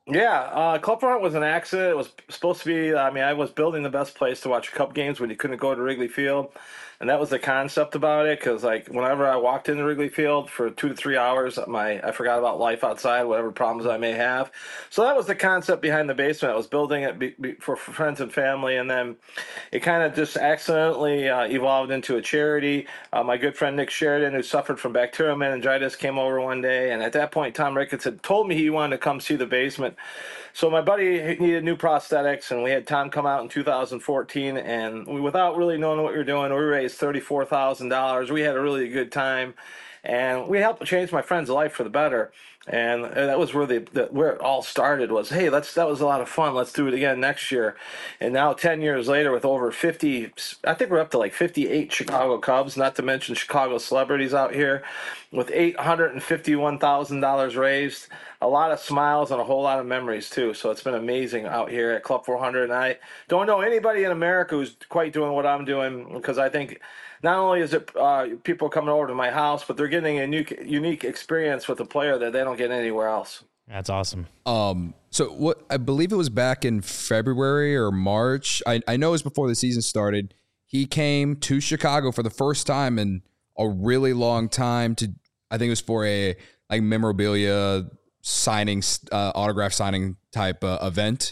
Yeah, uh, Club four hundred was an accident. It was supposed to be, I mean, I was building the best place to watch Cub games when you couldn't go to Wrigley Field. And that was the concept about it, because like whenever I walked into Wrigley Field for two to three hours, my I forgot about life outside, whatever problems I may have. So that was the concept behind the basement. I was building it be, be, for, for friends and family, and then it kind of just accidentally uh, evolved into a charity. Uh, my good friend Nick Sheridan, who suffered from bacterial meningitis, came over one day, and at that point, Tom Ricketts had told me he wanted to come see the basement. So my buddy needed new prosthetics, and we had Tom come out in two thousand fourteen, and we, without really knowing what we were doing, we raised thirty-four thousand dollars. We had a really good time, and we helped change my friend's life for the better. And that was where the, the where it all started. Was hey, let's that was a lot of fun. Let's do it again next year. And now ten years later, with over fifty, I think we're up to like fifty-eight Chicago Cubs, not to mention Chicago celebrities out here, with eight hundred and fifty-one thousand dollars raised. A lot of smiles and a whole lot of memories too. So it's been amazing out here at Club four hundred. And I don't know anybody in America who's quite doing what I'm doing, because I think not only is it uh, people coming over to my house, but they're getting a new, unique experience with a player that they don't get anywhere else. That's awesome. Um, so what I believe it was back in February or March. I, I know it was before the season started. He came to Chicago for the first time in a really long time. To I think it was for a like memorabilia signing, uh, autograph signing type uh, event,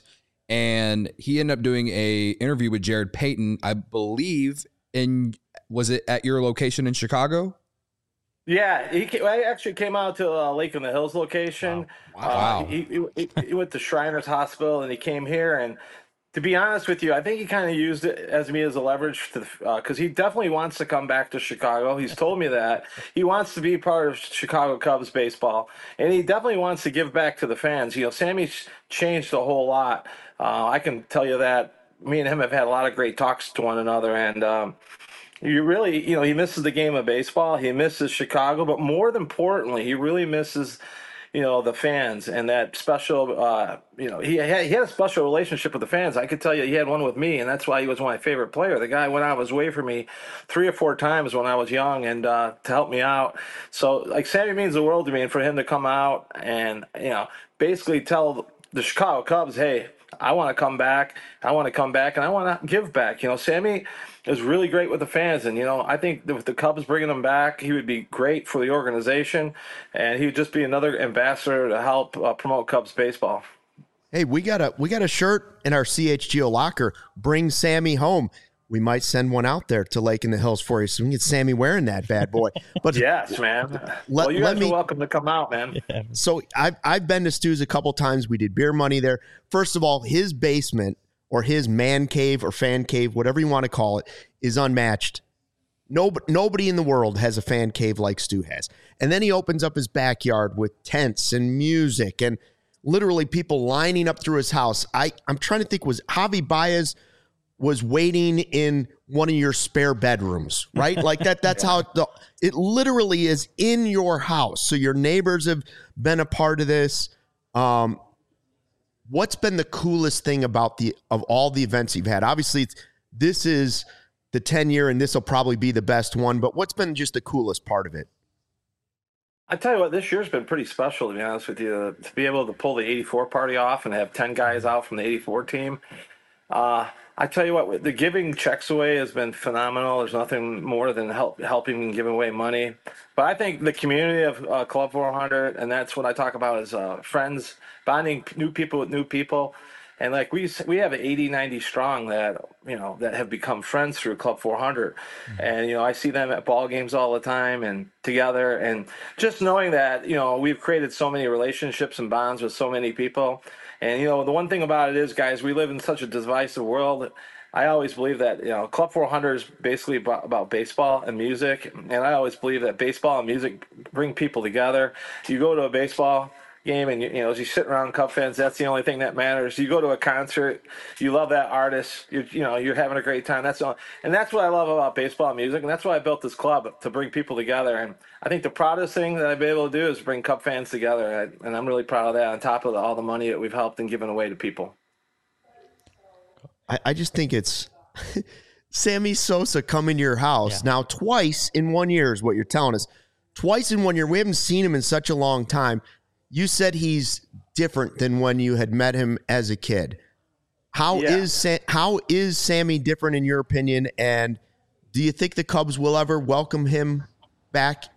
and he ended up doing a interview with Jared Payton, I believe. In was it at your location in Chicago? Yeah, he came, I actually came out to uh, Lake in the Hills location. Wow. Wow. Uh, he, he, he went to Shriners Hospital, and he came here. And to be honest with you, I think he kind of used it as me as a leverage to because uh, he definitely wants to come back to Chicago. He's told me that he wants to be part of Chicago Cubs baseball, and he definitely wants to give back to the fans. You know, Sammy's changed a whole lot. Uh, I can tell you that. Me and him have had a lot of great talks to one another, and um, you really, you know, he misses the game of baseball. He misses Chicago, but more than importantly, he really misses, you know, the fans and that special, uh, you know, he had, he had a special relationship with the fans. I could tell you he had one with me, and that's why he was my favorite player. The guy went out of his way for me three or four times when I was young and uh, to help me out. So, like, Sammy means the world to me, and for him to come out and, you know, basically tell the Chicago Cubs, hey, I want to come back. I want to come back, and I want to give back. You know, Sammy is really great with the fans, and, you know, I think with the Cubs bringing him back, he would be great for the organization, and he would just be another ambassador to help uh, promote Cubs baseball. Hey, we got a we got a shirt in our C H G O locker. Bring Sammy home. We might send one out there to Lake in the Hills for you, so we can get Sammy wearing that bad boy. But yes, man. Let, well, you let guys me, are welcome to come out, man. Yeah. So I've I've been to Stu's a couple times. We did beer money there. First of all, his basement or his man cave or fan cave, whatever you want to call it, is unmatched. Nobody, nobody in the world has a fan cave like Stu has. And then he opens up his backyard with tents and music and literally people lining up through his house. I, I'm trying to think, was Javi Baez was waiting in one of your spare bedrooms, right? Like that, that's yeah. how it, the, it literally is in your house. So your neighbors have been a part of this. Um, what's been the coolest thing about the, of all the events you've had? Obviously it's, this is the ten year and this will probably be the best one, but what's been just the coolest part of it? I tell you what, this year's been pretty special, to be honest with you, to be able to pull the eighty-four party off and have ten guys out from the eighty-four team. Uh, I tell you what, the giving checks away has been phenomenal. There's nothing more than help, helping and giving away money. But I think the community of uh, Club four hundred, and that's what I talk about is uh, friends, bonding new people with new people. And like we we have eighty, ninety strong that, you know, that have become friends through Club four hundred. Mm-hmm. And, you know, I see them at ball games all the time and together. And just knowing that, you know, we've created so many relationships and bonds with so many people. And, you know, the one thing about it is, guys, we live in such a divisive world. I always believe that, you know, Club four hundred is basically about, about baseball and music. And I always believe that baseball and music bring people together. You go to a baseball game and, you know, as you sit around Cub fans, that's the only thing that matters. You go to a concert, you love that artist, you you know, you're having a great time. That's all, and that's what I love about baseball and music, and that's why I built this club, to bring people together. And I think the proudest thing that I've been able to do is bring Cub fans together, and I'm really proud of that, on top of the, all the money that we've helped and given away to people. I, I just think it's Sammy Sosa coming to your house yeah. now twice in one year is what you're telling us. Twice in one year. We haven't seen him in such a long time. You said he's different than when you had met him as a kid. How Yeah. is Sa- how is Sammy different in your opinion? And do you think the Cubs will ever welcome him back?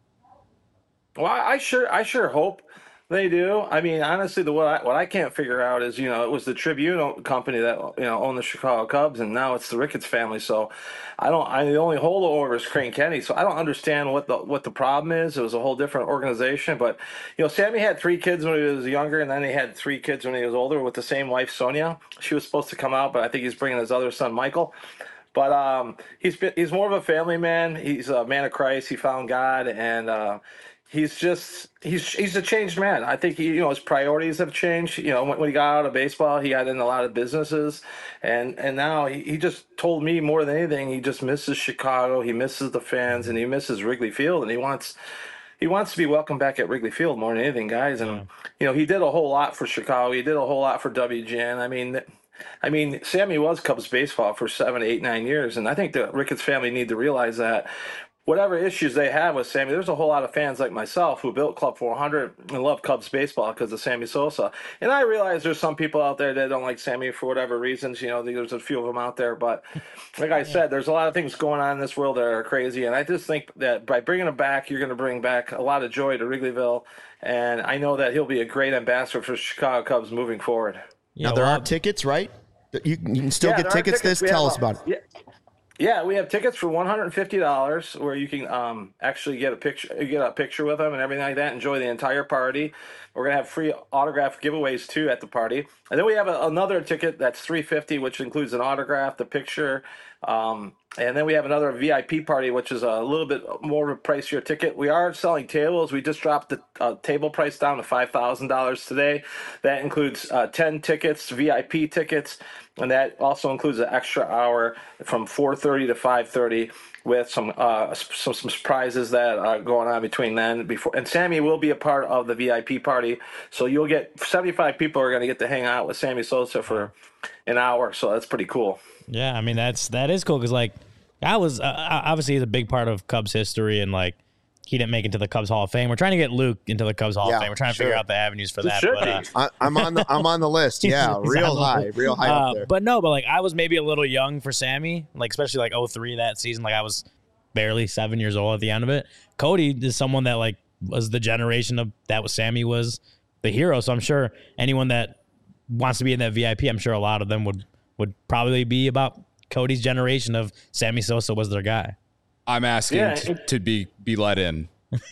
Well, I I sure, I sure hope they do. I mean, honestly, the what I what I can't figure out is, you know, it was the Tribune company that, you know, owned the Chicago Cubs, and now it's the Ricketts family. So, I don't. I the only holdover is Crane Kenny. So I don't understand what the what the problem is. It was a whole different organization, but you know, Sammy had three kids when he was younger, and then he had three kids when he was older with the same wife, Sonia. She was supposed to come out, but I think he's bringing his other son, Michael. But um, he's been, he's more of a family man. He's a man of Christ. He found God, and uh, he's just he's he's a changed man. I think he, you know, his priorities have changed. You know, when, when he got out of baseball, he got in a lot of businesses, and and now he, he just told me more than anything, he just misses Chicago. He misses the fans, and he misses Wrigley Field, and he wants. He wants to be welcomed back at Wrigley Field more than anything, guys. And, yeah. you know, he did a whole lot for Chicago. He did a whole lot for W G N. I mean, I mean, Sammy was Cubs baseball for seven, eight, nine years. And I think the Ricketts family need to realize that whatever issues they have with Sammy, there's a whole lot of fans like myself who built Club four hundred and love Cubs baseball because of Sammy Sosa. And I realize there's some people out there that don't like Sammy for whatever reasons. You know, there's a few of them out there. But like I said, there's a lot of things going on in this world that are crazy. And I just think that by bringing him back, you're going to bring back a lot of joy to Wrigleyville. And I know that he'll be a great ambassador for Chicago Cubs moving forward. Now, there are tickets, right? You, you can still yeah, get tickets, tickets. This? Tell us about it. Yeah. Yeah, we have tickets for one hundred fifty dollars where you can um, actually get a picture, get a picture with them and everything like that. Enjoy the entire party. We're gonna have free autograph giveaways too at the party, and then we have a, another ticket that's three hundred fifty dollars, which includes an autograph, the picture, um, and then we have another V I P party, which is a little bit more of a pricier ticket. We are selling tables. We just dropped the uh, table price down to five thousand dollars today. That includes uh, ten tickets, V I P tickets. And that also includes an extra hour from four thirty to five thirty with some uh, some, some surprises that are going on between then. Before and Sammy will be a part of the V I P party, so you'll get seventy-five people are going to get to hang out with Sammy Sosa for an hour. So that's pretty cool. Yeah, I mean that's that is cool because like I was uh, obviously he's a big part of Cubs history and like. He didn't make it to the Cubs Hall of Fame. We're trying to get Luke into the Cubs Hall yeah, of Fame. We're trying to sure. figure out the avenues for that. But, uh, I, I'm on the I'm on the list. Yeah, real high, real high uh, up there. But no, but like I was maybe a little young for Sammy, like especially like oh three that season. Like I was barely seven years old at the end of it. Cody is someone that like was the generation of that was Sammy was the hero. So I'm sure anyone that wants to be in that V I P, I'm sure a lot of them would would probably be about Cody's generation of Sammy Sosa was their guy. I'm asking Yeah, to, it- to be be let in.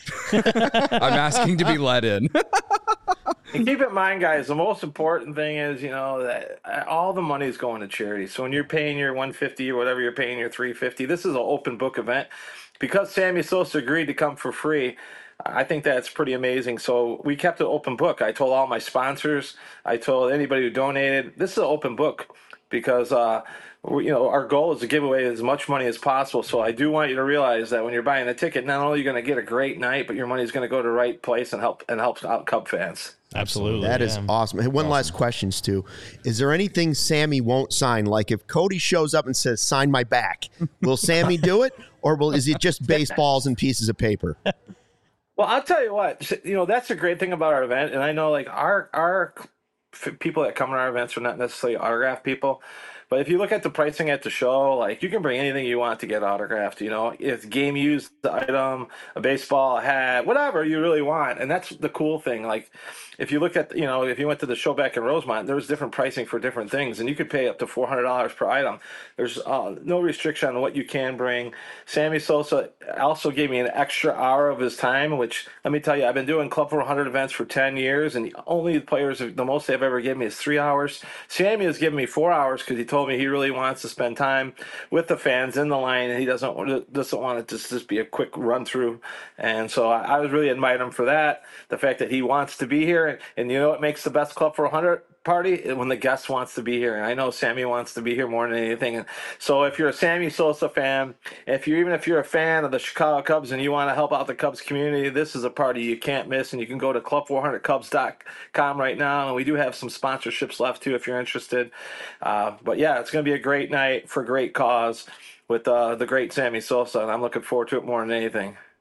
I'm asking to be let in. And keep in mind, guys, the most important thing is, you know, that all the money is going to charity. So when you're paying your one hundred fifty dollars or whatever you're paying your three hundred fifty dollars, this is an open book event. Because Sammy Sosa agreed to come for free, I think that's pretty amazing. So we kept an open book. I told all my sponsors, I told anybody who donated, this is an open book because, uh, you know, our goal is to give away as much money as possible. So I do want you to realize that when you're buying a ticket, not only are you going to get a great night, but your money is going to go to the right place and help and help out Cub fans. Absolutely. That is yeah. awesome. Hey, one Awesome. last question, Stu. Is there anything Sammy won't sign? Like if Cody shows up and says, sign my back, will Sammy do it? Or will is it just baseballs and pieces of paper? Well, I'll tell you what, you know, that's the great thing about our event. And I know like our, our f- people that come to our events are not necessarily autograph people. But if you look at the pricing at the show, like you can bring anything you want to get autographed. You know, it's game used item, a baseball, a hat, whatever you really want. And that's the cool thing. Like if you look at, you know, if you went to the show back in Rosemont, there was different pricing for different things. And you could pay up to four hundred dollars per item. There's uh, no restriction on what you can bring. Sammy Sosa also gave me an extra hour of his time, which let me tell you, I've been doing Club four hundred events for ten years. And the only players, the most they've ever given me is three hours. Sammy has given me four hours because he told me he really wants to spend time with the fans in the line, and he doesn't want to, doesn't want it to just be a quick run through. And so I, I was really admiring him for that. The fact that he wants to be here, and, and you know what makes the best Club four hundred party when the guest wants to be here. And I know Sammy wants to be here more than anything. And so if you're a Sammy Sosa fan, if you're even if you're a fan of the Chicago Cubs and you want to help out the Cubs community, this is a party you can't miss. And you can go to club four hundred cubs dot com right now. And we do have some sponsorships left too if you're interested. Uh, but yeah, it's going to be a great night for a great cause with uh, the great Sammy Sosa, and I'm looking forward to it more than anything.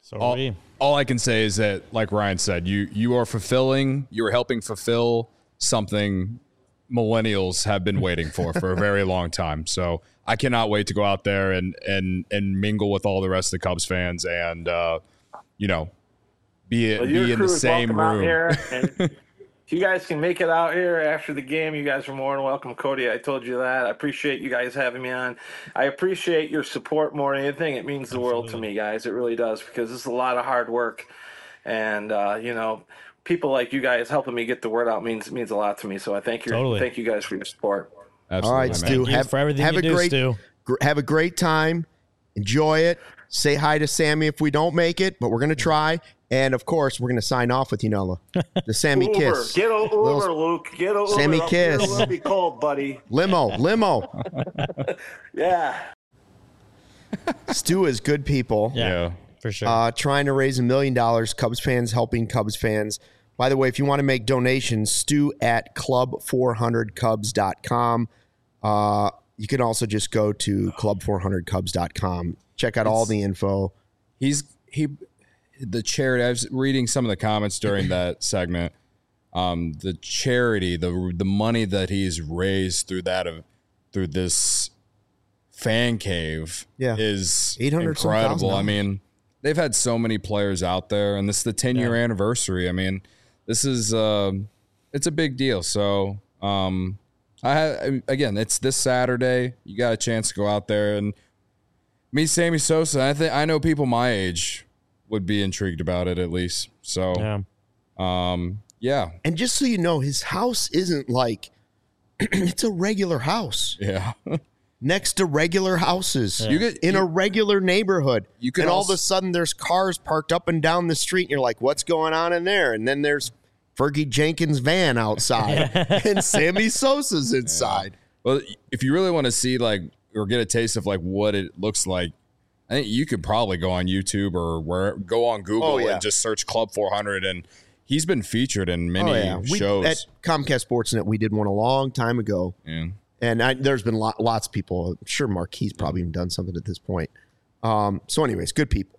So all, we. all I can say is that, like Ryan said, you you are fulfilling, you are helping fulfill something millennials have been waiting for for a very long time. So I cannot wait to go out there and and and mingle with all the rest of the Cubs fans and uh, you know be Well, be in the same room. Out here, and if you guys can make it out here after the game, you guys are more than welcome. Cody, I told you that. I appreciate you guys having me on. I appreciate your support more than anything. It means the Absolutely. world to me, guys. It really does, because this is a lot of hard work, and uh, you know. people like you guys helping me get the word out means means a lot to me. So I thank you, totally. thank you guys for your support. Absolutely, all right, Stu, have, for everything have you a do, great Stu. gr- have a great time. Enjoy it. Say hi to Sammy if we don't make it, but we're gonna try. And of course, we're gonna sign off with you, Nola. The Sammy Uber. kiss. Get a Uber, Little, Luke. Get a Uber. Sammy Up kiss. here, it'll be cold, buddy. Limo, limo. Yeah. Stu is good people. Yeah, Yeah. for sure. Uh, trying to raise a million dollars. Cubs fans helping Cubs fans. By the way, if you want to make donations, Stu at club four hundred cubs dot com. Uh, you can also just go to club four hundred cubs dot com. Check out it's, all the info. He's he, the charity. I was reading some of the comments during that segment. Um, the charity, the the money that he's raised through that of through this fan cave, yeah. is eight hundred incredible. I mean, they've had so many players out there, and this is the ten year yeah. anniversary. I mean, this is uh, it's a big deal. So, um, I have, again, it's this Saturday. You got a chance to go out there and meet Sammy Sosa. I think I know people my age would be intrigued about it at least. So, yeah. um, yeah. And just so you know, his house isn't like it's a regular house. Yeah. Next to regular houses. Yeah. You get in you, a regular neighborhood. You can and all also, of a sudden there's cars parked up and down the street and you're like, what's going on in there? And then there's Fergie Jenkins' van outside and Sammy Sosa's inside. Yeah. Well, if you really want to see like or get a taste of like what it looks like, I think you could probably go on YouTube or where go on Google oh, yeah. and just search Club four hundred, and he's been featured in many oh, yeah. we, shows. At Comcast Sportsnet, we did one a long time ago. Yeah. And I, there's been lot, lots of people. I'm sure Marquis probably even done something at this point. Um, so anyways, good people.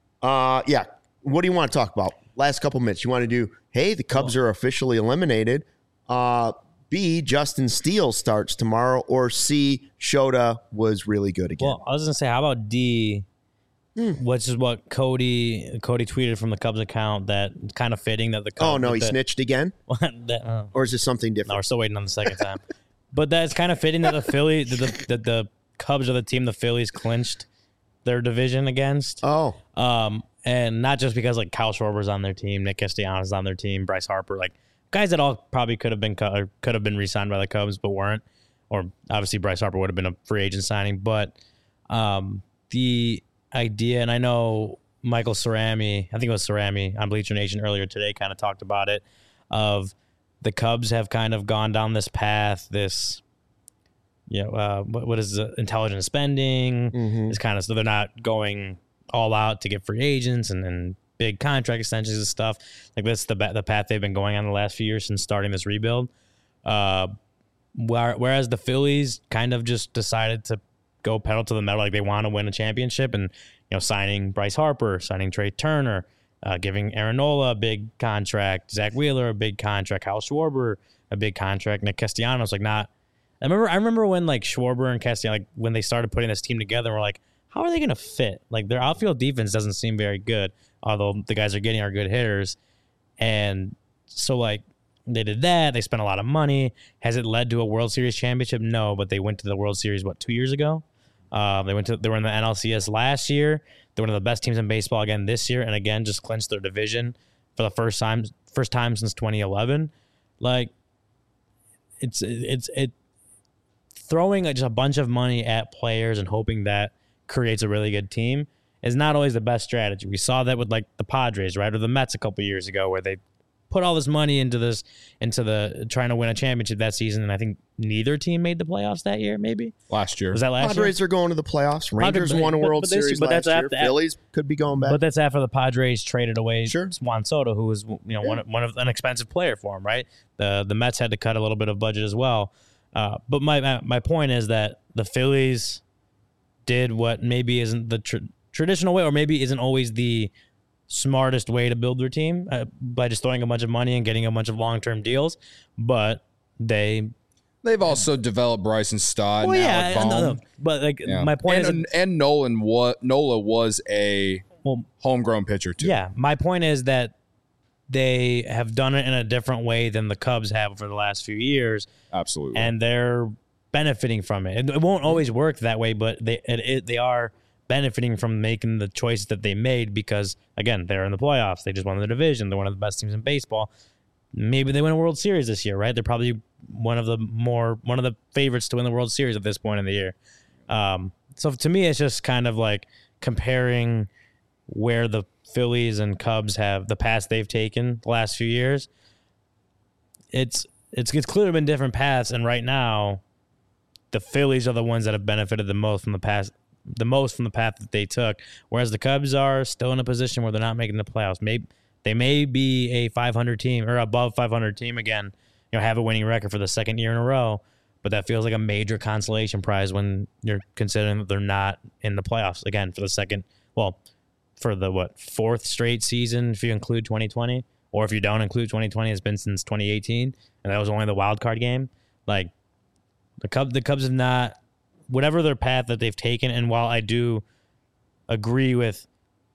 Uh, yeah. What do you want to talk about? Last couple minutes. You want to do, hey, the Cubs are officially eliminated. Uh, B, Justin Steele starts tomorrow. Or C, Shota was really good again. Well, I was going to say, how about D, hmm. which is what Cody Cody tweeted from the Cubs account, that kind of fitting that the Cubs. Oh, no, he the, snitched again? that, uh, or is this something different? No, we're still waiting on the second time. But that's kind of fitting that the Philly, that the, the, the Cubs are the team the Phillies clinched their division against. Oh. Um, and not just because like Kyle Schwarber's on their team, Nick Castellanos on their team, Bryce Harper, like guys that all probably could have been or could have been re-signed by the Cubs but weren't. Or obviously Bryce Harper would have been a free agent signing. But um, the idea, and I know Michael Cerami, I think it was Cerami on Bleacher Nation earlier today, kind of talked about it, of the Cubs have kind of gone down this path, this, you know, uh, what, what is it, intelligent spending, mm-hmm. is kind of, so they're not going all out to get free agents and, and big contract extensions and stuff. Like that's the the path they've been going on the last few years since starting this rebuild. Uh, where, whereas the Phillies kind of just decided to go pedal to the metal, like they want to win a championship, and you know, signing Bryce Harper, signing Trey Turner, Uh, giving Aaron Nola a big contract, Zach Wheeler a big contract, Kyle Schwarber a big contract, Nick Castellanos like not. I remember I remember when like Schwarber and Castellanos, like when they started putting this team together, we're like, how are they going to fit? Like their outfield defense doesn't seem very good, although the guys are getting are good hitters, and so like they did that. They spent a lot of money. Has it led to a World Series championship? No, but they went to the World Series what two years ago. Uh, they went to they were in the N L C S last year. They're one of the best teams in baseball again this year, and again just clinched their division for the first time first time since twenty eleven. Like it's it's it throwing just a bunch of money at players and hoping that creates a really good team is not always the best strategy. We saw that with like the Padres, right, or the Mets a couple years ago, where they put all this money into this into the trying to win a championship that season, and I think neither team made the playoffs that year. Maybe last year was that last Padres year? are going to the playoffs. Rangers Padres, won a but, World but Series but last that's year. After, Phillies could be going back, but that's after the Padres traded away sure. Juan Soto, who was you know yeah. one one of an expensive player for him. Right, the the Mets had to cut a little bit of budget as well. Uh, but my my point is that the Phillies did what maybe isn't the tr- traditional way, or maybe isn't always the smartest way to build their team uh, by just throwing a bunch of money and getting a bunch of long-term deals, but they They've also developed Bryson Stott. well, and yeah, Alec no, Bohm. no, but like Yeah. my point and, is, and Nolan was Nola was a well, homegrown pitcher too. yeah, my point is that they have done it in a different way than the Cubs have for the last few years, absolutely. and they're benefiting from it. It, it won't always work that way, but they it, it, they are benefiting from making the choices that they made because, again, they're in the playoffs. They just won the division. They're one of the best teams in baseball. Maybe they win a World Series this year, right? They're probably one of the more one of the favorites to win the World Series at this point in the year. Um, so to me, it's just kind of like comparing where the Phillies and Cubs have the paths they've taken the last few years. It's it's it's clearly been different paths, and right now, the Phillies are the ones that have benefited the most from the past, the most from the path that they took. Whereas the Cubs are still in a position where they're not making the playoffs. Maybe they may be a five hundred team or above five hundred team again. You know, have a winning record for the second year in a row. But that feels like a major consolation prize when you're considering that they're not in the playoffs again for the second. Well, for the what fourth straight season if you include twenty twenty, or if you don't include twenty twenty, it's been since twenty eighteen, and that was only the wild card game. Like the Cubs, the Cubs have not, whatever their path that they've taken. And while I do agree with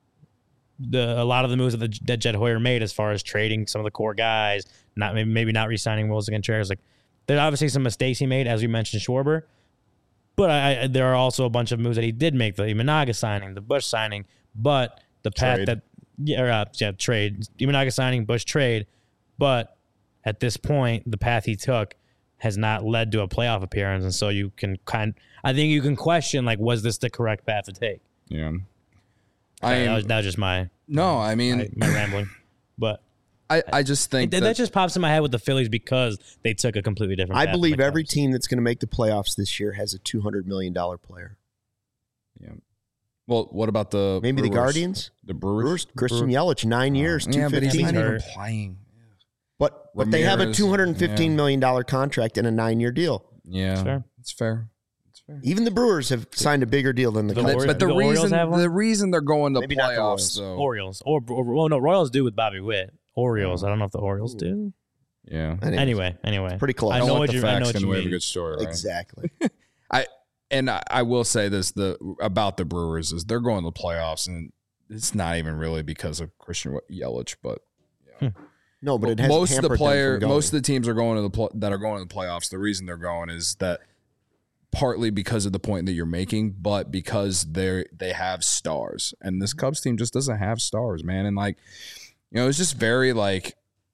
the a lot of the moves that, the, that Jed Hoyer made as far as trading some of the core guys, not maybe, maybe not re-signing Wilson Contreras, like there's obviously some mistakes he made, as we mentioned Schwarber. But I, I, there are also a bunch of moves that he did make, the Imanaga signing, the Bush signing, but the path Trade. that yeah, or, uh, yeah trade Imanaga signing, Bush trade, but at this point the path he took has not led to a playoff appearance, and so you can kind I think you can question, like, was this the correct path to take? Yeah. I I that, am, was, that was just my no, I mean, my, my rambling, but I, I just think that, that, that just pops in my head with the Phillies because they took a completely different I path than believe the every Cubs. team that's going to make the playoffs this year has a two hundred million dollars player. yeah. Well, what about the Maybe the Brewers? Guardians? The Brewers? Brewers, Christian Brewers? Yelich, nine years, two Yeah, but he's fifteen. not even hurt. playing. But but they have a Ramirez, two hundred fifteen yeah. million dollars contract and a nine-year deal. Yeah, That's fair. it's fair. It's fair. Even the Brewers have signed a bigger deal than the The Cubs. Ori- But the the Orioles reason have one? the reason they're going to Maybe not the playoffs Royals. though, Orioles or, or well, no, Royals do with Bobby Witt. Orioles, I don't know if the Orioles do. yeah. Anyways, Anyway, anyway, pretty close. I I know want what the you. I know facts what and you we have a mean. good story, right? Exactly. I and I, I will say this the about the Brewers is they're going to the playoffs, and it's not even really because of Christian Yelich, but No, but it has most of the hampered them player, from going. most of the teams are going to the pl- that are going to the playoffs. The reason they're going is that partly because of the point that you're making, but because they they have stars, and this Cubs team just doesn't have stars, man. And like, you know, it's just very like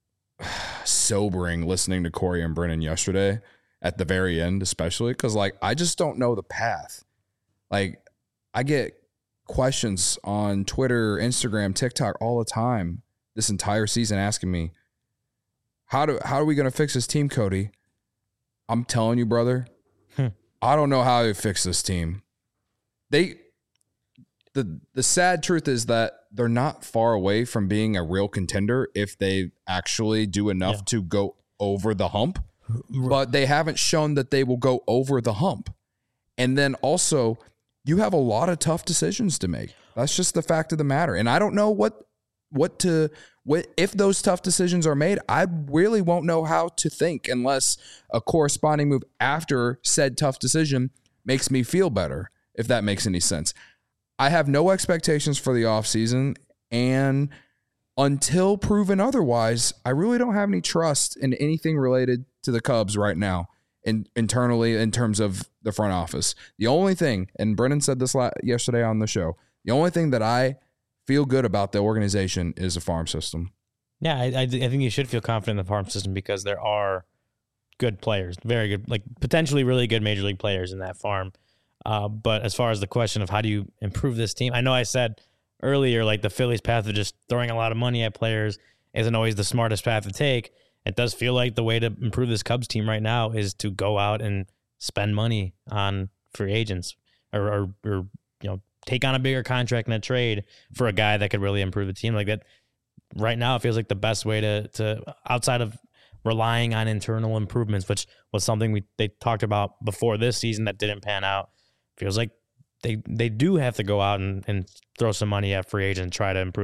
sobering listening to Corey and Brennan yesterday at the very end, especially because like I just don't know the path. Like I get questions on Twitter, Instagram, TikTok all the time this entire season asking me, how do how are we going to fix this team, Cody? I'm telling you, brother, Hmm. I don't know how to fix this team. They the the sad truth is that they're not far away from being a real contender if they actually do enough Yeah. to go over the hump. But they haven't shown that they will go over the hump. And then also, you have a lot of tough decisions to make. That's just the fact of the matter. And I don't know what what to what if those tough decisions are made. I really won't know how to think unless a corresponding move after said tough decision makes me feel better, if that makes any sense. I have no expectations for the offseason, and until proven otherwise, I really don't have any trust in anything related to the Cubs right now, in, internally in terms of the front office. The only thing, and Brennan said this la- yesterday on the show, the only thing that I feel good about the organization is the farm system. Yeah, I, I, I think you should feel confident in the farm system because there are good players, very good, like potentially really good major league players in that farm. Uh, but as far as the question of how do you improve this team, I know I said earlier, like the Phillies' path of just throwing a lot of money at players isn't always the smartest path to take. It does feel like the way to improve this Cubs team right now is to go out and spend money on free agents or, or, or you know, take on a bigger contract and a trade for a guy that could really improve the team like that. Right now, it feels like the best way to, to outside of relying on internal improvements, which was something we they talked about before this season that didn't pan out. Feels like they they do have to go out and, and throw some money at free agents and try to improve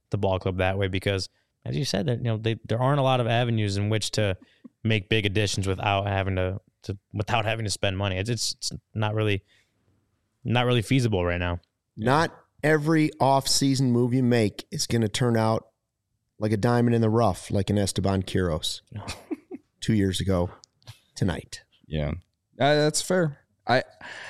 the ball club that way because, as you said, that you know they, there aren't a lot of avenues in which to make big additions without having to, to without having to spend money. It's, it's it's not really not really feasible right now. Not every off-season move you make is going to turn out like a diamond in the rough, like an Esteban Quiroz two years ago tonight. Yeah, uh, that's fair. I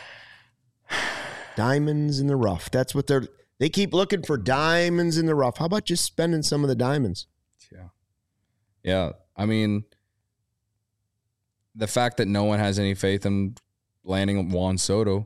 diamonds in the rough. That's what they're. They keep looking for diamonds in the rough. How about just spending some of the diamonds? Yeah, yeah. I mean, the fact that no one has any faith in landing Juan Soto,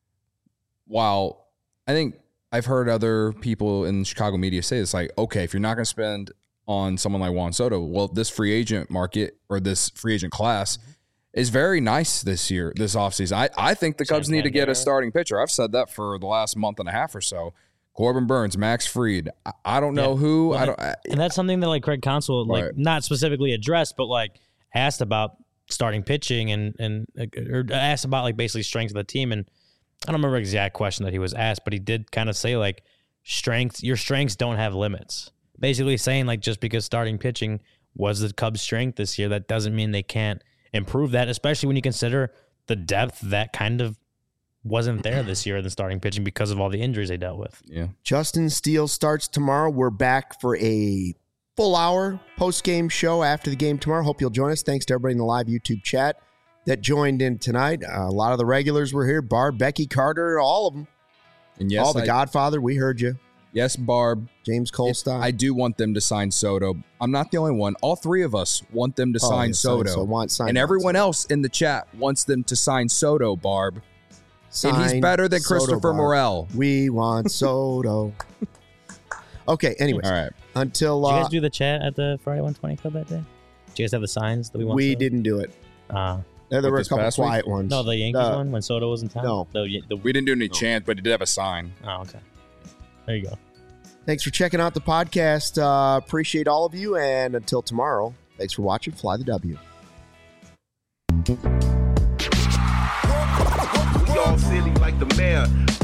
while I think I've heard other people in Chicago media say it's like, okay, if you're not going to spend on someone like Juan Soto, well, this free agent market or this free agent class mm-hmm. is very nice this year, this offseason. I, I think the Cubs need to get a starting pitcher. I've said that for the last month and a half or so. Corbin Burns, Max Fried. I, I don't know yeah. who. Well, I don't. I, and that's something that like Craig Counsell like right. not specifically addressed, but like asked about starting pitching and and or asked about like basically strengths of the team. And I don't remember the exact question that he was asked, but he did kind of say like strengths. Your strengths don't have limits. Basically saying like just because starting pitching was the Cubs' strength this year, that doesn't mean they can't improve that. Especially when you consider the depth that kind of wasn't there this year in the starting pitching because of all the injuries they dealt with. Yeah. Justin Steele starts tomorrow. We're back for a full hour post-game show after the game tomorrow. Hope you'll join us. Thanks to everybody in the live YouTube chat that joined in tonight. Uh, a lot of the regulars were here. Barb, Becky, Carter, all of them. And yes, all the I, Godfather, we heard you. Yes, Barb. James Colstein. I do want them to sign Soto. I'm not the only one. All three of us want them to oh, sign yeah, Soto. So want sign and everyone Soto. else in the chat wants them to sign Soto, Barb. Sign and he's better than Soto, Christopher Barb. Morel. We want Soto. Okay, anyways. All right. Until, uh, did you guys do the chat at the Friday one twenty Club that day? Did you guys have the signs that we want? We Soto? didn't do it. Uh, there there were a couple quiet week? ones. No, the Yankees uh, one when Soto was in town? No. The, the, we didn't do any no. chant, but it did have a sign. Oh, okay. There you go. Thanks for checking out the podcast. Uh, appreciate all of you. And until tomorrow, thanks for watching Fly the W. We all silly like the mayor.